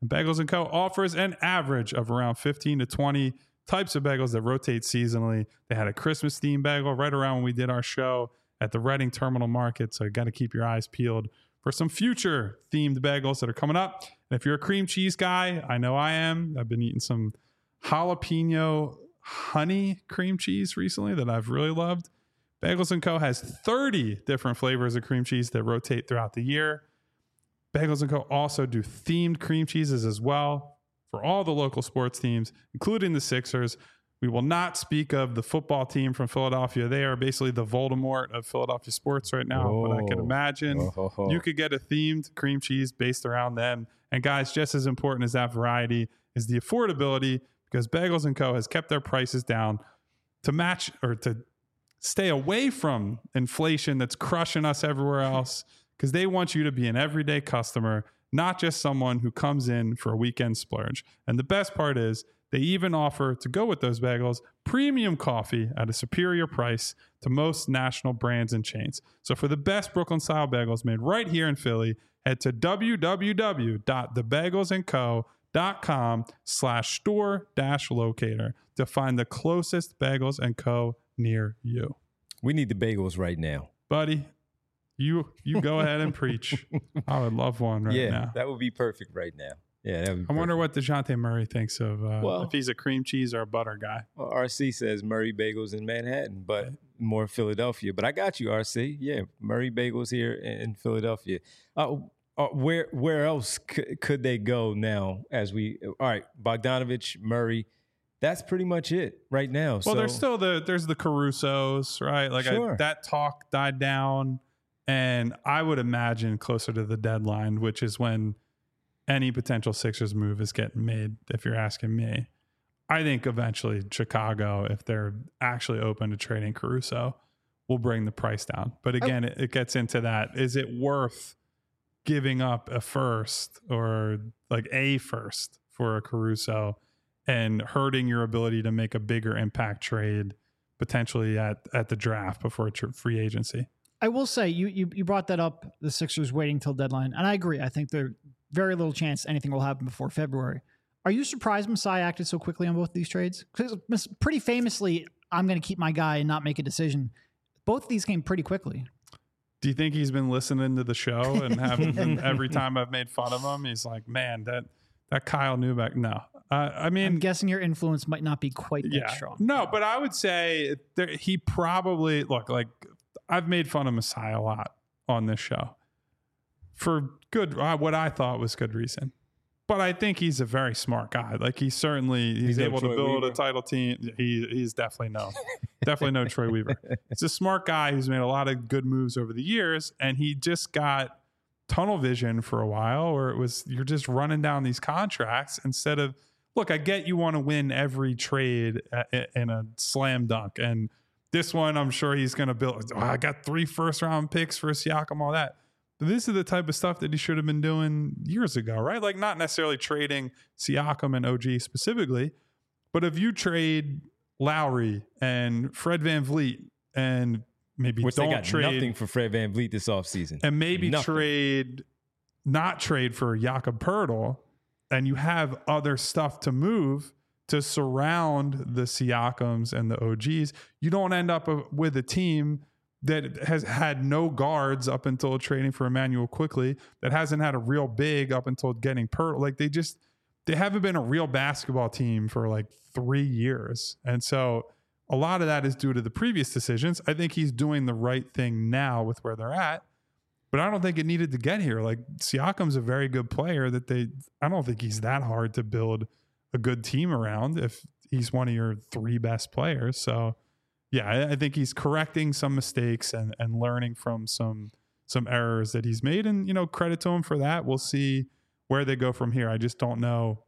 And Bagels and Co. offers an average of around fifteen to twenty types of bagels that rotate seasonally. They had a Christmas themed bagel right around when we did our show at the Reading Terminal Market. So you got to keep your eyes peeled for some future themed bagels that are coming up. And if you're a cream cheese guy, I know I am. I've been eating some jalapeno honey cream cheese recently that I've really loved. Bagels and Co. has thirty different flavors of cream cheese that rotate throughout the year. Bagels and Co. also do themed cream cheeses as well for all the local sports teams, including the Sixers. We will not speak of the football team from Philadelphia. They are basically the Voldemort of Philadelphia sports right now. Oh. But I can imagine oh, oh, oh. you could get a themed cream cheese based around them. And guys, just as important as that variety is the affordability, because Bagels and Co. has kept their prices down to match or to stay away from inflation that's crushing us everywhere else, because they want you to be an everyday customer, not just someone who comes in for a weekend splurge. And the best part is they even offer, to go with those bagels, premium coffee at a superior price to most national brands and chains. So for the best Brooklyn-style bagels made right here in Philly, head to www.thebagelsandco.com slash store dash locator to find the closest Bagels and Co. near you. We need the bagels right now. Buddy, you you go ahead and preach. I would love one right yeah, now. Yeah, that would be perfect right now. Yeah, that would be I perfect. wonder what DeJounte Murray thinks of uh, well, if he's a cream cheese or a butter guy. Well, R C says Murray Bagels in Manhattan, but more Philadelphia. But I got you, R C. Yeah, Murray Bagels here in Philadelphia. Uh, uh, where where else c- could they go now? As we all right, Bogdanovich, Murray. That's pretty much it right now. Well, so, there's still the there's the Carusos, right? Like sure. I, that talk died down, and I would imagine closer to the deadline, which is when any potential Sixers move is getting made. If you're asking me, I think eventually Chicago, if they're actually open to trading Caruso, will bring the price down. But again, oh. it, it gets into that: is it worth giving up a first or like a first for a Caruso and hurting your ability to make a bigger impact trade potentially at, at the draft before tr- free agency? I will say you, you you brought that up, the Sixers waiting till deadline, and I agree. I think there's very little chance anything will happen before February. Are you surprised Masai acted so quickly on both of these trades? Because pretty famously, I'm going to keep my guy and not make a decision. Both of these came pretty quickly. Do you think he's been listening to the show and having every time I've made fun of him, he's like, man, that that Kyle Neubeck? No. Uh, I mean, I'm guessing your influence might not be quite that yeah, strong. No, but I would say there, he probably, look, like I've made fun of Masai a lot on this show for good, uh, what I thought was good reason. But I think he's a very smart guy. Like he certainly, he's, he's able to build Weaver. a title team. He He's definitely no, definitely no Troy Weaver. He's a smart guy who's made a lot of good moves over the years. And he just got tunnel vision for a while where it was, you're just running down these contracts instead of, look, I get you want to win every trade in a slam dunk. And this one, I'm sure he's going to build, oh, I got three first round picks for Siakam, all that. But this is the type of stuff that he should have been doing years ago, right? Like not necessarily trading Siakam and O G specifically, but if you trade Lowry and Fred VanVleet and maybe Which don't they got trade nothing for Fred VanVleet this offseason. And maybe nothing. trade, not trade for Jakob Poeltl, and you have other stuff to move to surround the Siakams and the O Gs, you don't end up with a team that has had no guards up until trading for Emmanuel Quickley, that hasn't had a real big up until getting Poeltl. Like they just, they haven't been a real basketball team for like three years. And so a lot of that is due to the previous decisions. I think he's doing the right thing now with where they're at, but I don't think it needed to get here. Like Siakam's a very good player that they, I don't think he's that hard to build a good team around if he's one of your three best players. So yeah, I, I think he's correcting some mistakes and, and learning from some, some errors that he's made, and, you know, credit to him for that. We'll see where they go from here. I just don't know.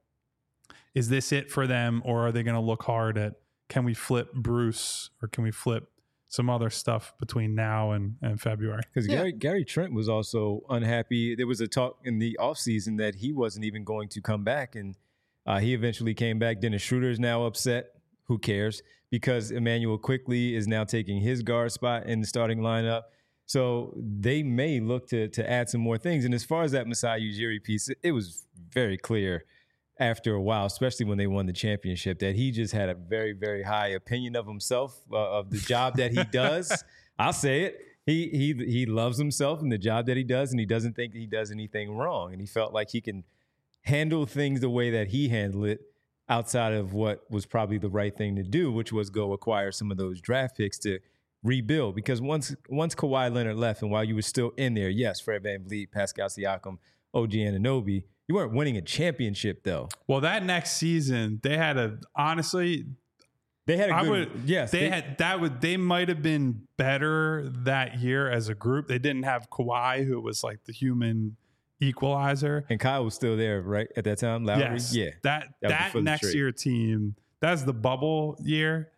Is this it for them, or are they going to look hard at, can we flip Bruce or can we flip some other stuff between now and, and February? Because yeah. Gary, Gary Trent was also unhappy. There was a talk in the offseason that he wasn't even going to come back, and uh, he eventually came back. Dennis Schroeder is now upset. Who cares? Because Emmanuel Quickley is now taking his guard spot in the starting lineup. So they may look to to add some more things. And as far as that Masai Ujiri piece, it, it was very clear after a while, especially when they won the championship, that he just had a very, very high opinion of himself, uh, of the job that he does. I'll say it. He he he loves himself and the job that he does, and he doesn't think he does anything wrong. And he felt like he can handle things the way that he handled it outside of what was probably the right thing to do, which was go acquire some of those draft picks to rebuild. Because once once Kawhi Leonard left, and while you were still in there, yes, Fred VanVleet, Pascal Siakam, O G Anunoby, you weren't winning a championship though. Well, that next season, they had a honestly. They had a good, I would, yes. They, they had that would they might have been better that year as a group. They didn't have Kawhi, who was like the human equalizer, and Kyle was still there, right, at that time. Lowry, yes, yeah. That that, that next year team, that's the bubble year.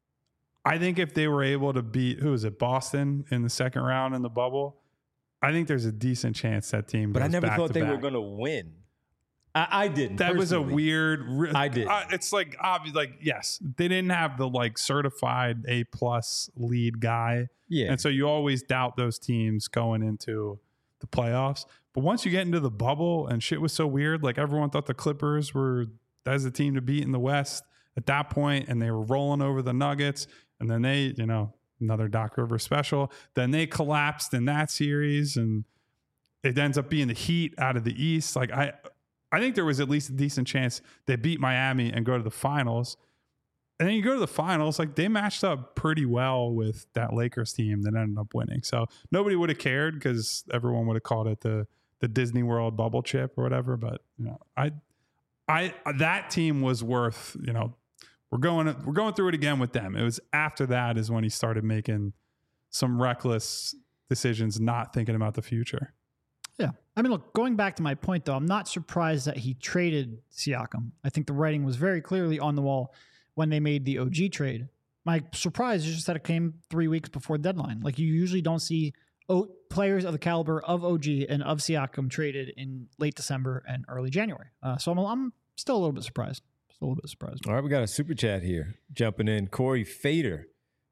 I think if they were able to beat who was it, Boston in the second round in the bubble, I think there's a decent chance that team. But I never thought they back. were going to win. I, I didn't. That personally. was a weird. I did. Uh, it's like obvious. Like yes, they didn't have the like certified A plus lead guy. Yeah, and so you always doubt those teams going into the playoffs. But once you get into the bubble and shit was so weird, like everyone thought the Clippers were as the team to beat in the West at that point, and they were rolling over the Nuggets, and then they, you know, another Doc Rivers special. Then they collapsed in that series, and it ends up being the Heat out of the East. Like I. I think there was at least a decent chance they beat Miami and go to the finals. And then you go to the finals, like they matched up pretty well with that Lakers team that ended up winning. So nobody would have cared because everyone would have called it the the Disney World bubble chip or whatever. But you know, I I that team was worth, you know, we're going we're going through it again with them. It was after that is when he started making some reckless decisions, not thinking about the future. Yeah. I mean, look, going back to my point, though, I'm not surprised that he traded Siakam. I think the writing was very clearly on the wall when they made the O G trade. My surprise is just that it came three weeks before the deadline. Like, you usually don't see o- players of the caliber of O G and of Siakam traded in late December and early January. Uh, so I'm, I'm still a little bit surprised. Still a little bit surprised. All right, we got a super chat here. Jumping in, Corey Fader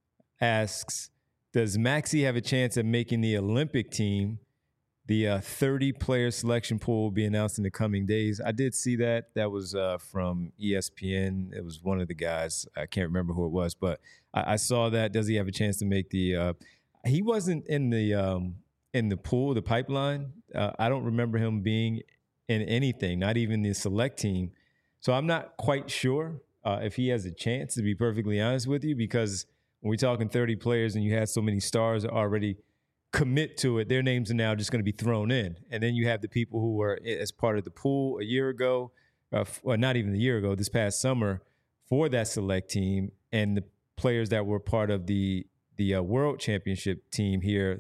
asks, does Maxey have a chance at making the Olympic team? The uh, thirty-player selection pool will be announced in the coming days. I did see that. That was uh, from E S P N. It was one of the guys. I can't remember who it was, but I, I saw that. Does he have a chance to make the uh, – he wasn't in the um, in the pool, the pipeline. Uh, I don't remember him being in anything, not even the select team. So I'm not quite sure uh, if he has a chance, to be perfectly honest with you, because when we're talking thirty players and you have so many stars already – commit to it, their names are now just going to be thrown in. And then you have the people who were as part of the pool a year ago, uh, or not even a year ago, this past summer for that select team, and the players that were part of the the uh, World Championship team here.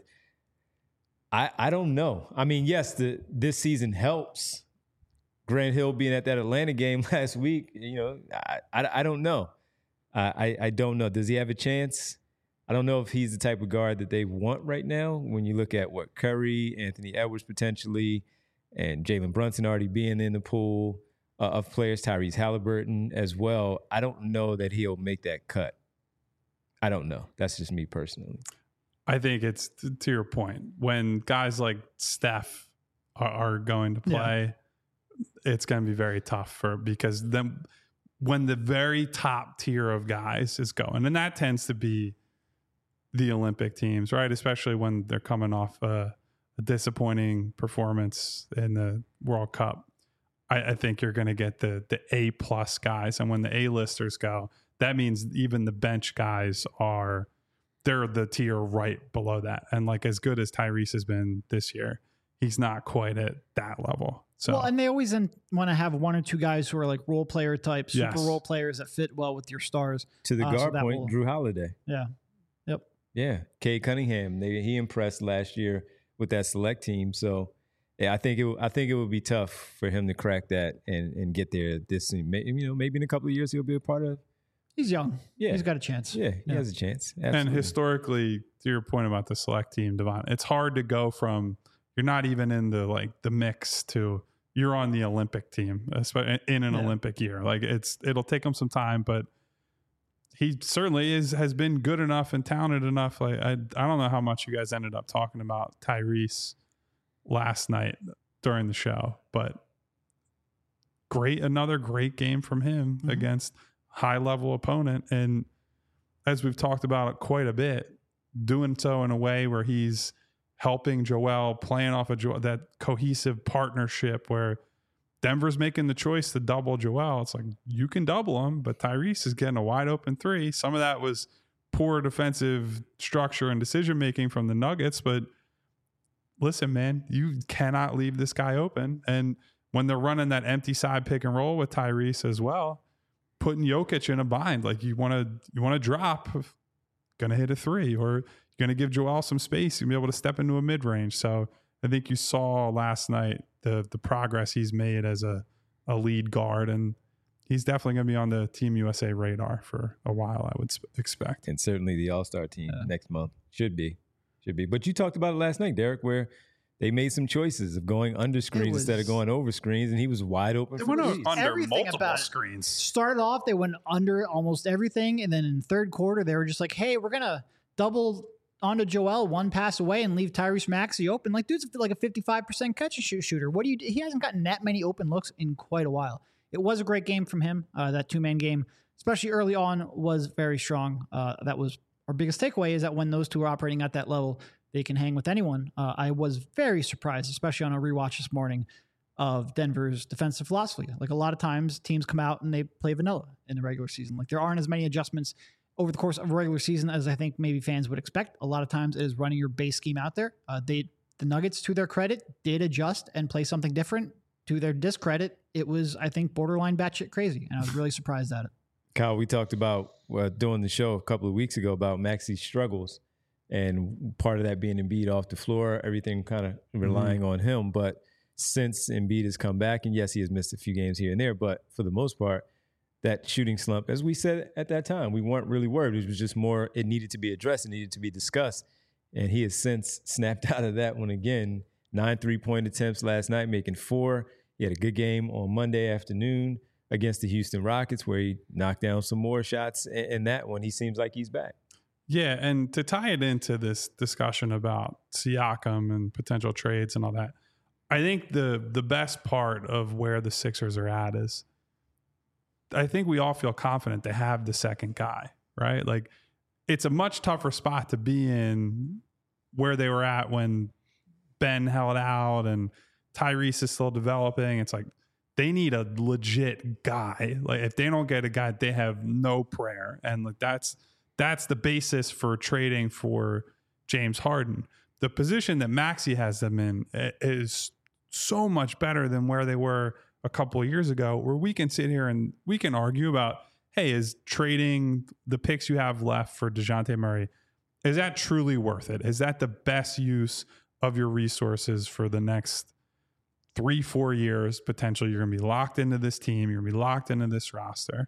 I I don't know. I mean, yes, the this season helps. Grant Hill being at that Atlanta game last week, you know, I I, I don't know. I, I I don't know. Does he have a chance? I don't know if he's the type of guard that they want right now. When you look at what Curry, Anthony Edwards potentially, and Jalen Brunson already being in the pool uh, of players, Tyrese Halliburton as well, I don't know that he'll make that cut. I don't know. That's just me personally. I think it's to your point. When guys like Steph are, are going to play, yeah. it's going to be very tough for because then when the very top tier of guys is going, and that tends to be the Olympic teams, right? Especially when they're coming off a, a disappointing performance in the World Cup. I, I think you're going to get the the A plus guys, and when the A-listers go, that means even the bench guys are they're the tier right below that. And like as good as Tyrese has been this year, he's not quite at that level. So well, and they always want to have one or two guys who are like role player type, super yes. role players that fit well with your stars. To the uh, guard so point, will, Drew Holiday. Yeah. Yep. Yeah, Cade Cunningham. They, he impressed last year with that select team. So, yeah, I think it. I think it would be tough for him to crack that and, and get there. This, you know, maybe in a couple of years he'll be a part of. He's young. Yeah, he's got a chance. Yeah, he yeah. has a chance. Absolutely. And historically, to your point about the select team, Devon, it's hard to go from you're not even in the like the mix to you're on the Olympic team, especially in an yeah. Olympic year. Like it's it'll take him some time, but. He certainly is has been good enough and talented enough. Like I, I don't know how much you guys ended up talking about Tyrese last night during the show, but great, another great game from him mm-hmm. against high level opponent. And as we've talked about quite a bit, doing so in a way where he's helping Joel, playing off of Joel, that cohesive partnership where Denver's making the choice to double Joel. It's like, you can double him, but Tyrese is getting a wide open three. Some of that was poor defensive structure and decision-making from the Nuggets, but listen, man, you cannot leave this guy open. And when they're running that empty side pick and roll with Tyrese as well, putting Jokic in a bind, like you want to, you want to drop, going to hit a three, or you're going to give Joel some space and be able to step into a mid-range. So I think you saw last night the the progress he's made as a, a lead guard, and he's definitely going to be on the Team U S A radar for a while, I would sp- expect. And certainly the All-Star team yeah. next month. Should be. Should be. But you talked about it last night, Derek, where they made some choices of going under screens was, instead of going over screens, and he was wide open. They for went under everything multiple about screens. Started off, they went under almost everything, and then in the third quarter, they were just like, hey, we're going to double onto Joel, one pass away, and leave Tyrese Maxey open. Like, dude's like a fifty-five percent catch and shoot shooter. What do you? He hasn't gotten that many open looks in quite a while. It was a great game from him. Uh, that two-man game, especially early on, was very strong. Uh, that was our biggest takeaway, is that when those two are operating at that level, they can hang with anyone. Uh, I was very surprised, especially on a rewatch this morning, of Denver's defensive philosophy. Like, a lot of times teams come out and they play vanilla in the regular season. Like, there aren't as many adjustments over the course of a regular season as I think maybe fans would expect. A lot of times it is running your base scheme out there. Uh, they, the Nuggets, to their credit, did adjust and play something different. To their discredit, it was, I think, borderline batshit crazy, and I was really surprised at it. Kyle, we talked about uh, doing the show a couple of weeks ago about Maxey's struggles, and part of that being Embiid off the floor, everything kind of relying mm-hmm. on him. But since Embiid has come back, and yes, he has missed a few games here and there, but for the most part, that shooting slump, as we said at that time, we weren't really worried. It was just more, it needed to be addressed, it needed to be discussed. And he has since snapped out of that one again. Nine three-point attempts last night, making four. He had a good game on Monday afternoon against the Houston Rockets, where he knocked down some more shots. In that one, he seems like he's back. Yeah, and to tie it into this discussion about Siakam and potential trades and all that, I think the the best part of where the Sixers are at is, I think we all feel confident they have the second guy, right? Like, it's a much tougher spot to be in where they were at when Ben held out and Tyrese is still developing. It's like they need a legit guy. Like, if they don't get a guy, they have no prayer. And like that's that's the basis for trading for James Harden. The position that Maxey has them in is so much better than where they were a couple of years ago, where we can sit here and we can argue about, hey, is trading the picks you have left for DeJounte Murray, is that truly worth it? Is that the best use of your resources for the next three, four years? Potentially, you're going to be locked into this team. You're going to be locked into this roster.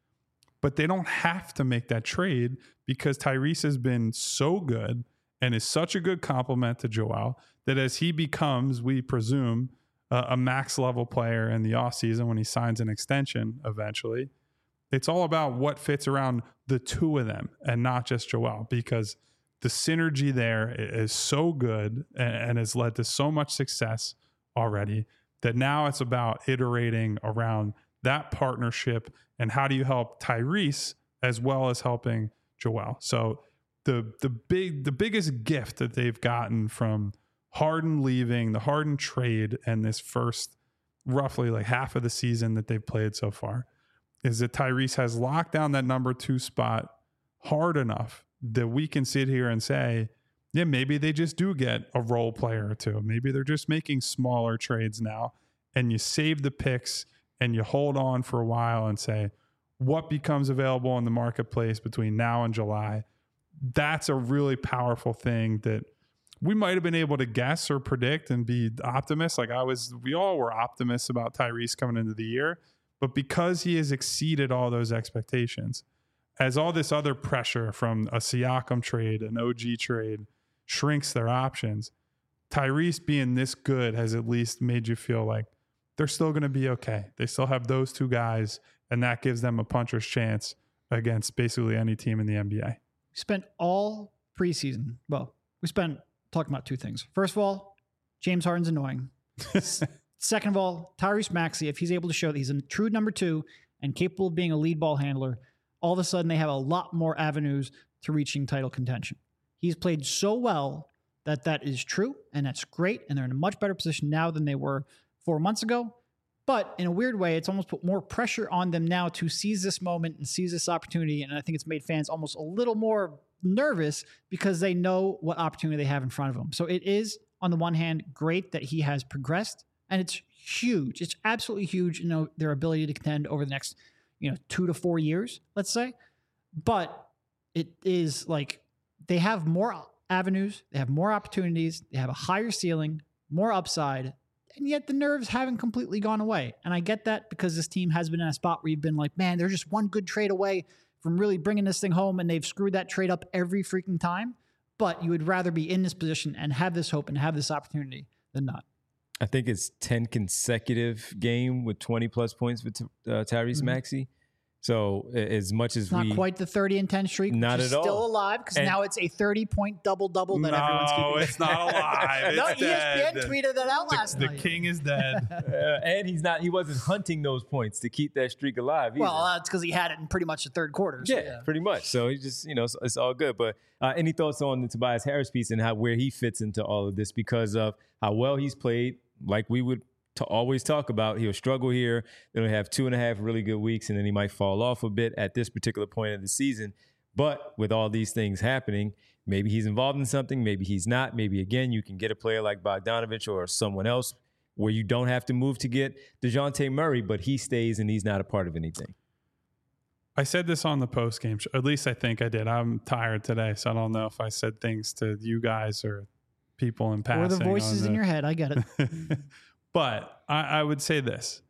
But they don't have to make that trade because Tyrese has been so good and is such a good complement to Joel that as he becomes, we presume, uh, a max level player in the offseason when he signs an extension eventually, it's all about what fits around the two of them and not just Joel, because the synergy there is so good and, and has led to so much success already that now it's about iterating around that partnership and how do you help Tyrese as well as helping Joel. So the the big the biggest gift that they've gotten from Harden leaving, the Harden trade, and this first roughly like half of the season that they've played so far is that Tyrese has locked down that number two spot hard enough that we can sit here and say, yeah, maybe they just do get a role player or two. Maybe they're just making smaller trades now, and you save the picks and you hold on for a while and say, what becomes available in the marketplace between now and July? That's a really powerful thing that we might have been able to guess or predict and be optimists. Like I was, we all were optimists about Tyrese coming into the year, but because he has exceeded all those expectations, as all this other pressure from a Siakam trade, an O G trade shrinks their options, Tyrese being this good has at least made you feel like they're still going to be okay. They still have those two guys, and that gives them a puncher's chance against basically any team in the N B A. We spent all preseason, well, we spent talking about two things. First of all, James Harden's annoying. second of all, Tyrese Maxey, if he's able to show that he's a true number two and capable of being a lead ball handler, all of a sudden they have a lot more avenues to reaching title contention. He's played so well that that is true, and that's great, and they're in a much better position now than they were four months ago. But in a weird way, it's almost put more pressure on them now to seize this moment and seize this opportunity, and I think it's made fans almost a little more nervous because they know what opportunity they have in front of them. So it is, on the one hand, great that he has progressed, and it's huge. It's absolutely huge, you know, their ability to contend over the next, you know, two to four years, let's say. But it is like they have more avenues, they have more opportunities, they have a higher ceiling, more upside, and yet the nerves haven't completely gone away. And I get that because this team has been in a spot where you've been like, man, they're just one good trade away from really bringing this thing home, and they've screwed that trade up every freaking time. But you would rather be in this position and have this hope and have this opportunity than not. I think it's ten consecutive game with twenty plus points for uh, Tyrese mm-hmm. Maxey. So as much as not we... Not quite the thirty and ten streak, not which is at all. Still alive, because now it's a thirty-point double-double that no, everyone's keeping. No, it's not alive. It's no, E S P N dead. tweeted that out the, last the night. The king is dead. uh, and he's not. He wasn't hunting those points to keep that streak alive either. Well, that's because he had it in pretty much the third quarter. So yeah, yeah, pretty much. So he just, you know, it's, it's all good. But uh, any thoughts on the Tobias Harris piece and how where he fits into all of this because of how well he's played, like we would to always talk about. He'll struggle here. Then he'll have two and a half really good weeks, and then he might fall off a bit at this particular point of the season. But with all these things happening, maybe he's involved in something, maybe he's not. Maybe, again, you can get a player like Bogdanovich or someone else where you don't have to move to get DeJounte Murray, but he stays and he's not a part of anything. I said this on the post-game show. At least I think I did. I'm tired today, so I don't know if I said things to you guys or people in passing. Or the voices the, in your head. I get it. But I, I would say this.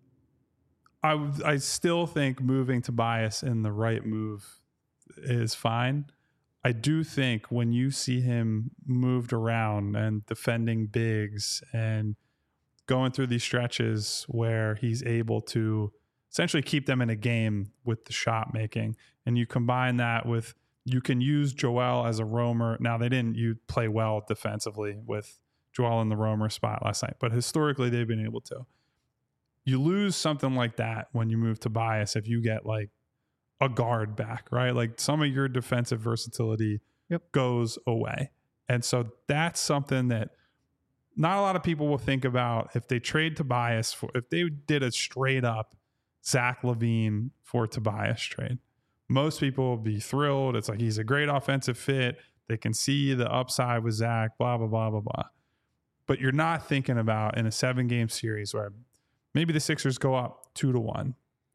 I, w- I still think moving Tobias in the right move is fine. I do think when you see him moved around and defending bigs and going through these stretches where he's able to essentially keep them in a game with the shot making, and you combine that with, you can use Joel as a roamer. Now, they didn't you play well defensively with Joel in the roamer spot last night, but historically they've been able to. You lose something like that when you move Tobias if you get like a guard back, right? Like some of your defensive versatility yep. goes away. And so that's something that not a lot of people will think about if they trade Tobias for, if they did a straight up Zach LaVine for Tobias trade. Most people will be thrilled. It's like he's a great offensive fit. They can see the upside with Zach, blah, blah, blah, blah, blah. But you're not thinking about in a seven game series where maybe the Sixers go up two to one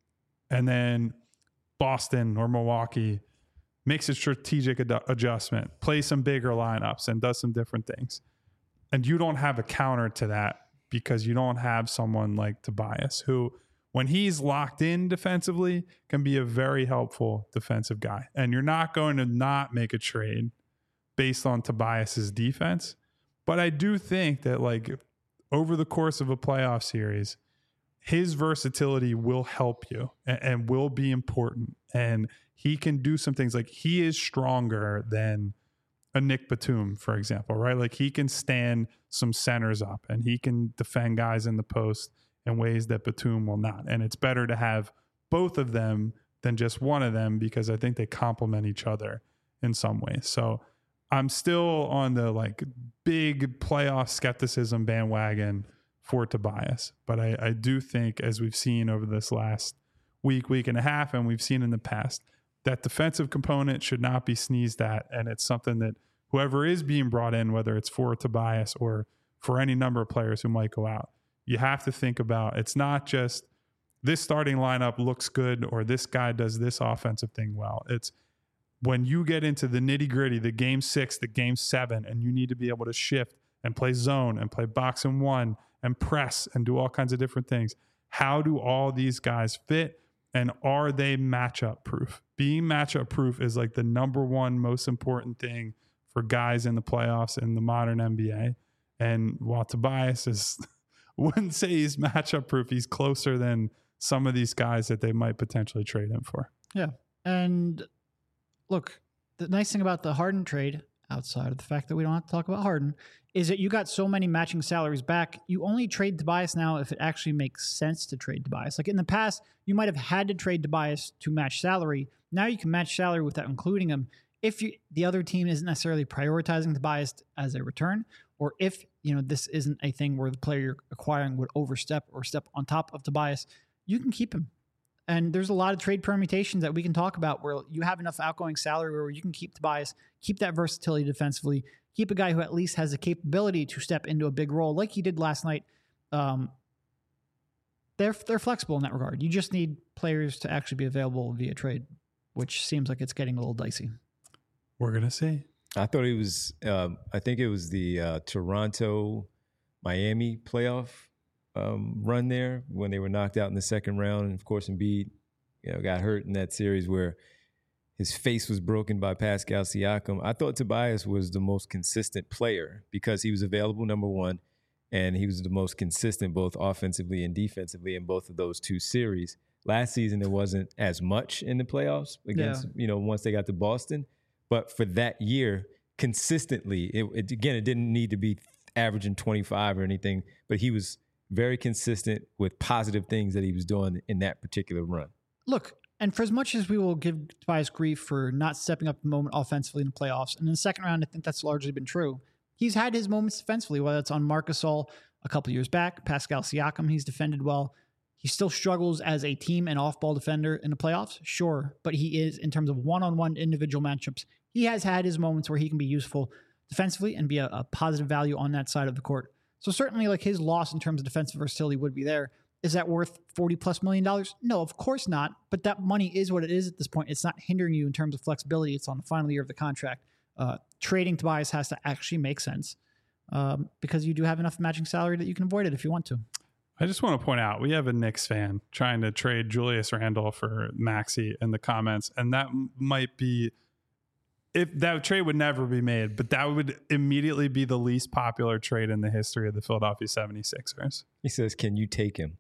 and then Boston or Milwaukee makes a strategic ad- adjustment, plays some bigger lineups and does some different things. And you don't have a counter to that because you don't have someone like Tobias who, when he's locked in defensively, can be a very helpful defensive guy. And you're not going to not make a trade based on Tobias's defense. But I do think that like over the course of a playoff series, his versatility will help you and, and will be important. And he can do some things like he is stronger than a Nick Batum, for example, right? Like he can stand some centers up and he can defend guys in the post in ways that Batum will not. And it's better to have both of them than just one of them because I think they complement each other in some ways. So I'm still on the like big playoff skepticism bandwagon for Tobias. But I, I do think, as we've seen over this last week, week and a half, and we've seen in the past, that defensive component should not be sneezed at. And it's something that whoever is being brought in, whether it's for Tobias or for any number of players who might go out, you have to think about, it's not just this starting lineup looks good or this guy does this offensive thing well. It's when you get into the nitty gritty, the game six, the game seven, and you need to be able to shift and play zone and play box and one and press and do all kinds of different things. How do all these guys fit? And are they matchup proof? Being matchup proof is like the number one most important thing for guys in the playoffs in the modern N B A. And while Tobias is, wouldn't say he's matchup proof, he's closer than some of these guys that they might potentially trade him for. Yeah. And look, the nice thing about the Harden trade, outside of the fact that we don't have to talk about Harden, is that you got so many matching salaries back. You only trade Tobias now if it actually makes sense to trade Tobias. Like in the past, you might have had to trade Tobias to match salary. Now you can match salary without including him if you, the other team isn't necessarily prioritizing Tobias as a return, or if you know this isn't a thing where the player you're acquiring would overstep or step on top of Tobias. You can keep him. And there's a lot of trade permutations that we can talk about where you have enough outgoing salary where you can keep Tobias, keep that versatility defensively, keep a guy who at least has the capability to step into a big role like he did last night. Um, they're they're flexible in that regard. You just need players to actually be available via trade, which seems like it's getting a little dicey. We're going to see. I thought it was, um, I think it was the uh, Toronto Miami playoff um, run there when they were knocked out in the second round. And of course, Embiid, you know, got hurt in that series where his face was broken by Pascal Siakam. I thought Tobias was the most consistent player because he was available, number one, and he was the most consistent both offensively and defensively in both of those two series. Last season, there wasn't as much in the playoffs against, yeah. you know, once they got to Boston. But for that year, consistently, it, it, again, it didn't need to be averaging twenty-five or anything, but he was very consistent with positive things that he was doing in that particular run. Look, and for as much as we will give Tobias grief for not stepping up the moment offensively in the playoffs, and in the second round, I think that's largely been true. He's had his moments defensively, whether it's on Marc Gasol a couple years back, Pascal Siakam, he's defended well. He still struggles as a team and off-ball defender in the playoffs, sure, but he is, in terms of one-on-one individual matchups, he has had his moments where he can be useful defensively and be a, a positive value on that side of the court. So certainly like his loss in terms of defensive versatility would be there. Is that worth forty plus million dollars? No, of course not. But that money is what it is at this point. It's not hindering you in terms of flexibility. It's on the final year of the contract. Uh, trading Tobias has to actually make sense um, because you do have enough matching salary that you can avoid it if you want to. I just want to point out, we have a Knicks fan trying to trade Julius Randle for Maxey in the comments. And that might be, if that trade would never be made, but that would immediately be the least popular trade in the history of the Philadelphia seventy-sixers. He says, can you take him?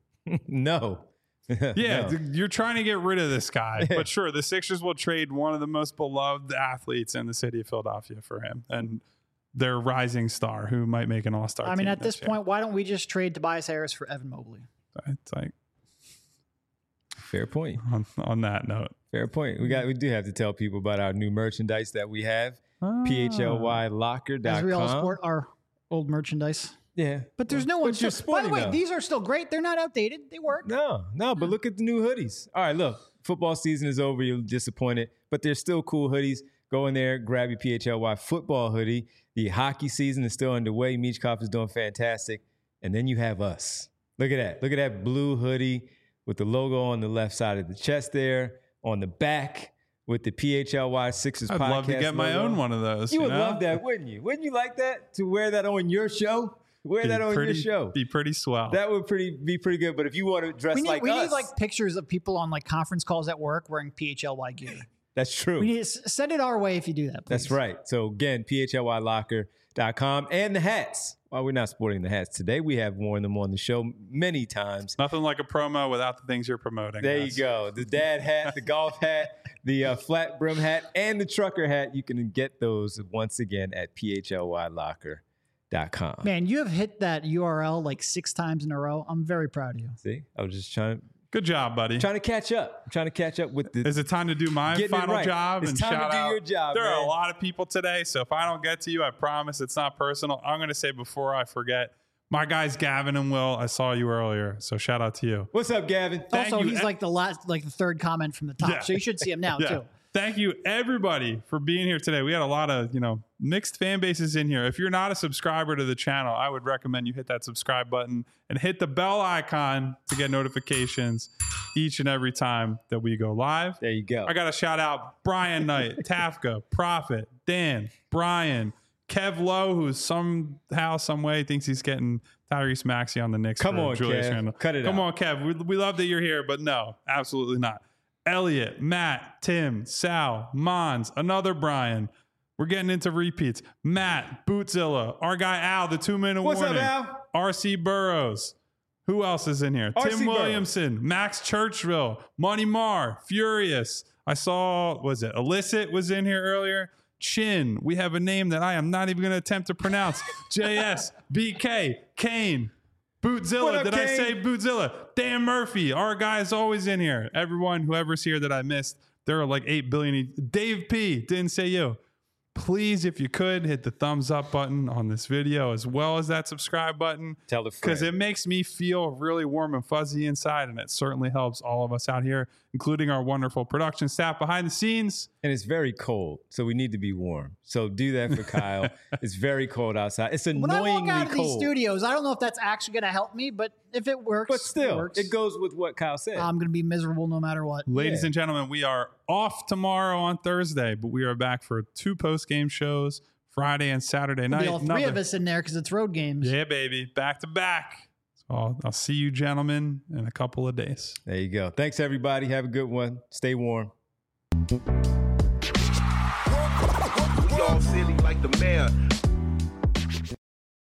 No. Yeah, no. You're trying to get rid of this guy. But sure, the Sixers will trade one of the most beloved athletes in the city of Philadelphia for him. And their rising star who might make an all-star team. I mean, at this year. point, why don't we just trade Tobias Harris for Evan Mobley? It's like, fair point. On, on that note. Fair point. We got we do have to tell people about our new merchandise that we have. Ah. P H L Y locker dot com. As we all sport our old merchandise. Yeah. But there's no one. By the way, though. These are still great. They're not outdated. They work. No, no, but look at the new hoodies. All right, look. Football season is over. You're disappointed. But there's still cool hoodies. Go in there, grab your P H L Y football hoodie. The hockey season is still underway. Michkov is doing fantastic. And then you have us. Look at that. Look at that blue hoodie with the logo on the left side of the chest there. On the back with the P H L Y Sixers I'd podcast. I'd love to get my logo. own one of those. You, you would know? love that, wouldn't you? Wouldn't you like that? To wear that on your show? Wear Be that on pretty, your show. Be pretty swell. That would pretty be pretty good. But if you want to dress we need, like we us. need like pictures of people on like conference calls at work wearing P H L Y gear. That's true. We need to send it our way if you do that, please. That's right. So again, P H L Y locker dot com and the hats. While we're not sporting the hats today, we have worn them on the show many times. Nothing like a promo without the things you're promoting. There guys. you go. The dad hat, the golf hat, the uh, flat brim hat, and the trucker hat. You can get those once again at P H L Y locker dot com. Man, you have hit that U R L like six times in a row. I'm very proud of you. See, I was just trying to Good job, buddy. trying to catch up. I'm trying to catch up with the. Is it time to do my Getting it final right. job It's and time to shout do out? your job, There are man. a lot of people today, so if I don't get to you, I promise it's not personal. I'm going to say before I forget, my guys Gavin and Will, I saw you earlier, so shout out to you. What's up, Gavin? Thank also, you. he's like the last, like the third comment from the top, Yeah. so you should see him now Yeah. too. Thank you, everybody, for being here today. We had a lot of, you know, mixed fan bases in here. If you're not a subscriber to the channel, I would recommend you hit that subscribe button and hit the bell icon to get notifications each and every time that we go live. There you go. I got to shout out Brian Knight, Tafka, Prophet, Dan, Brian, Kev Lowe, who somehow, some way thinks he's getting Tyrese Maxey on the Knicks. Come for on, Julius Kev. Randle. Cut it Come out. on, Kev. We, we love that you're here, but no, absolutely not. Elliot, Matt, Tim, Sal, Mons, another Brian. We're getting into repeats. Matt, Bootzilla, our guy Al, the two-minute What's warning. up, Al? R C Burrows. Who else is in here? R C Tim Burrows. Williamson, Max Churchville, Money Marr, Furious. I saw, was it Illicit was in here earlier? Chin. We have a name that I am not even going to attempt to pronounce. J S, B K, Kane, Bootzilla. Up, Did Kane? I say Bootzilla? Dan Murphy. Our guy's always in here. Everyone, whoever's here that I missed, there are like eight billion. Dave P. Didn't say you. Please, if you could, hit the thumbs up button on this video as well as that subscribe button. Tell a friend. Because it makes me feel really warm and fuzzy inside, and it certainly helps all of us out here, including our wonderful production staff behind the scenes. And it's very cold, so we need to be warm. So do that for Kyle. It's very cold outside. It's When I annoyingly walk out of these cold. studios, I don't know if that's actually going to help me, but if it works, But still, it, works. it goes with what Kyle said. I'm going to be miserable no matter what. Ladies Yeah. and gentlemen, we are off tomorrow on Thursday, but we are back for two post-game shows, Friday and Saturday night. Be all three Another- of us in there because it's road games. Yeah, baby. Back to back. So I'll, I'll see you gentlemen in a couple of days. There you go. Thanks, everybody. Have a good one. Stay warm. We all silly like the mayor.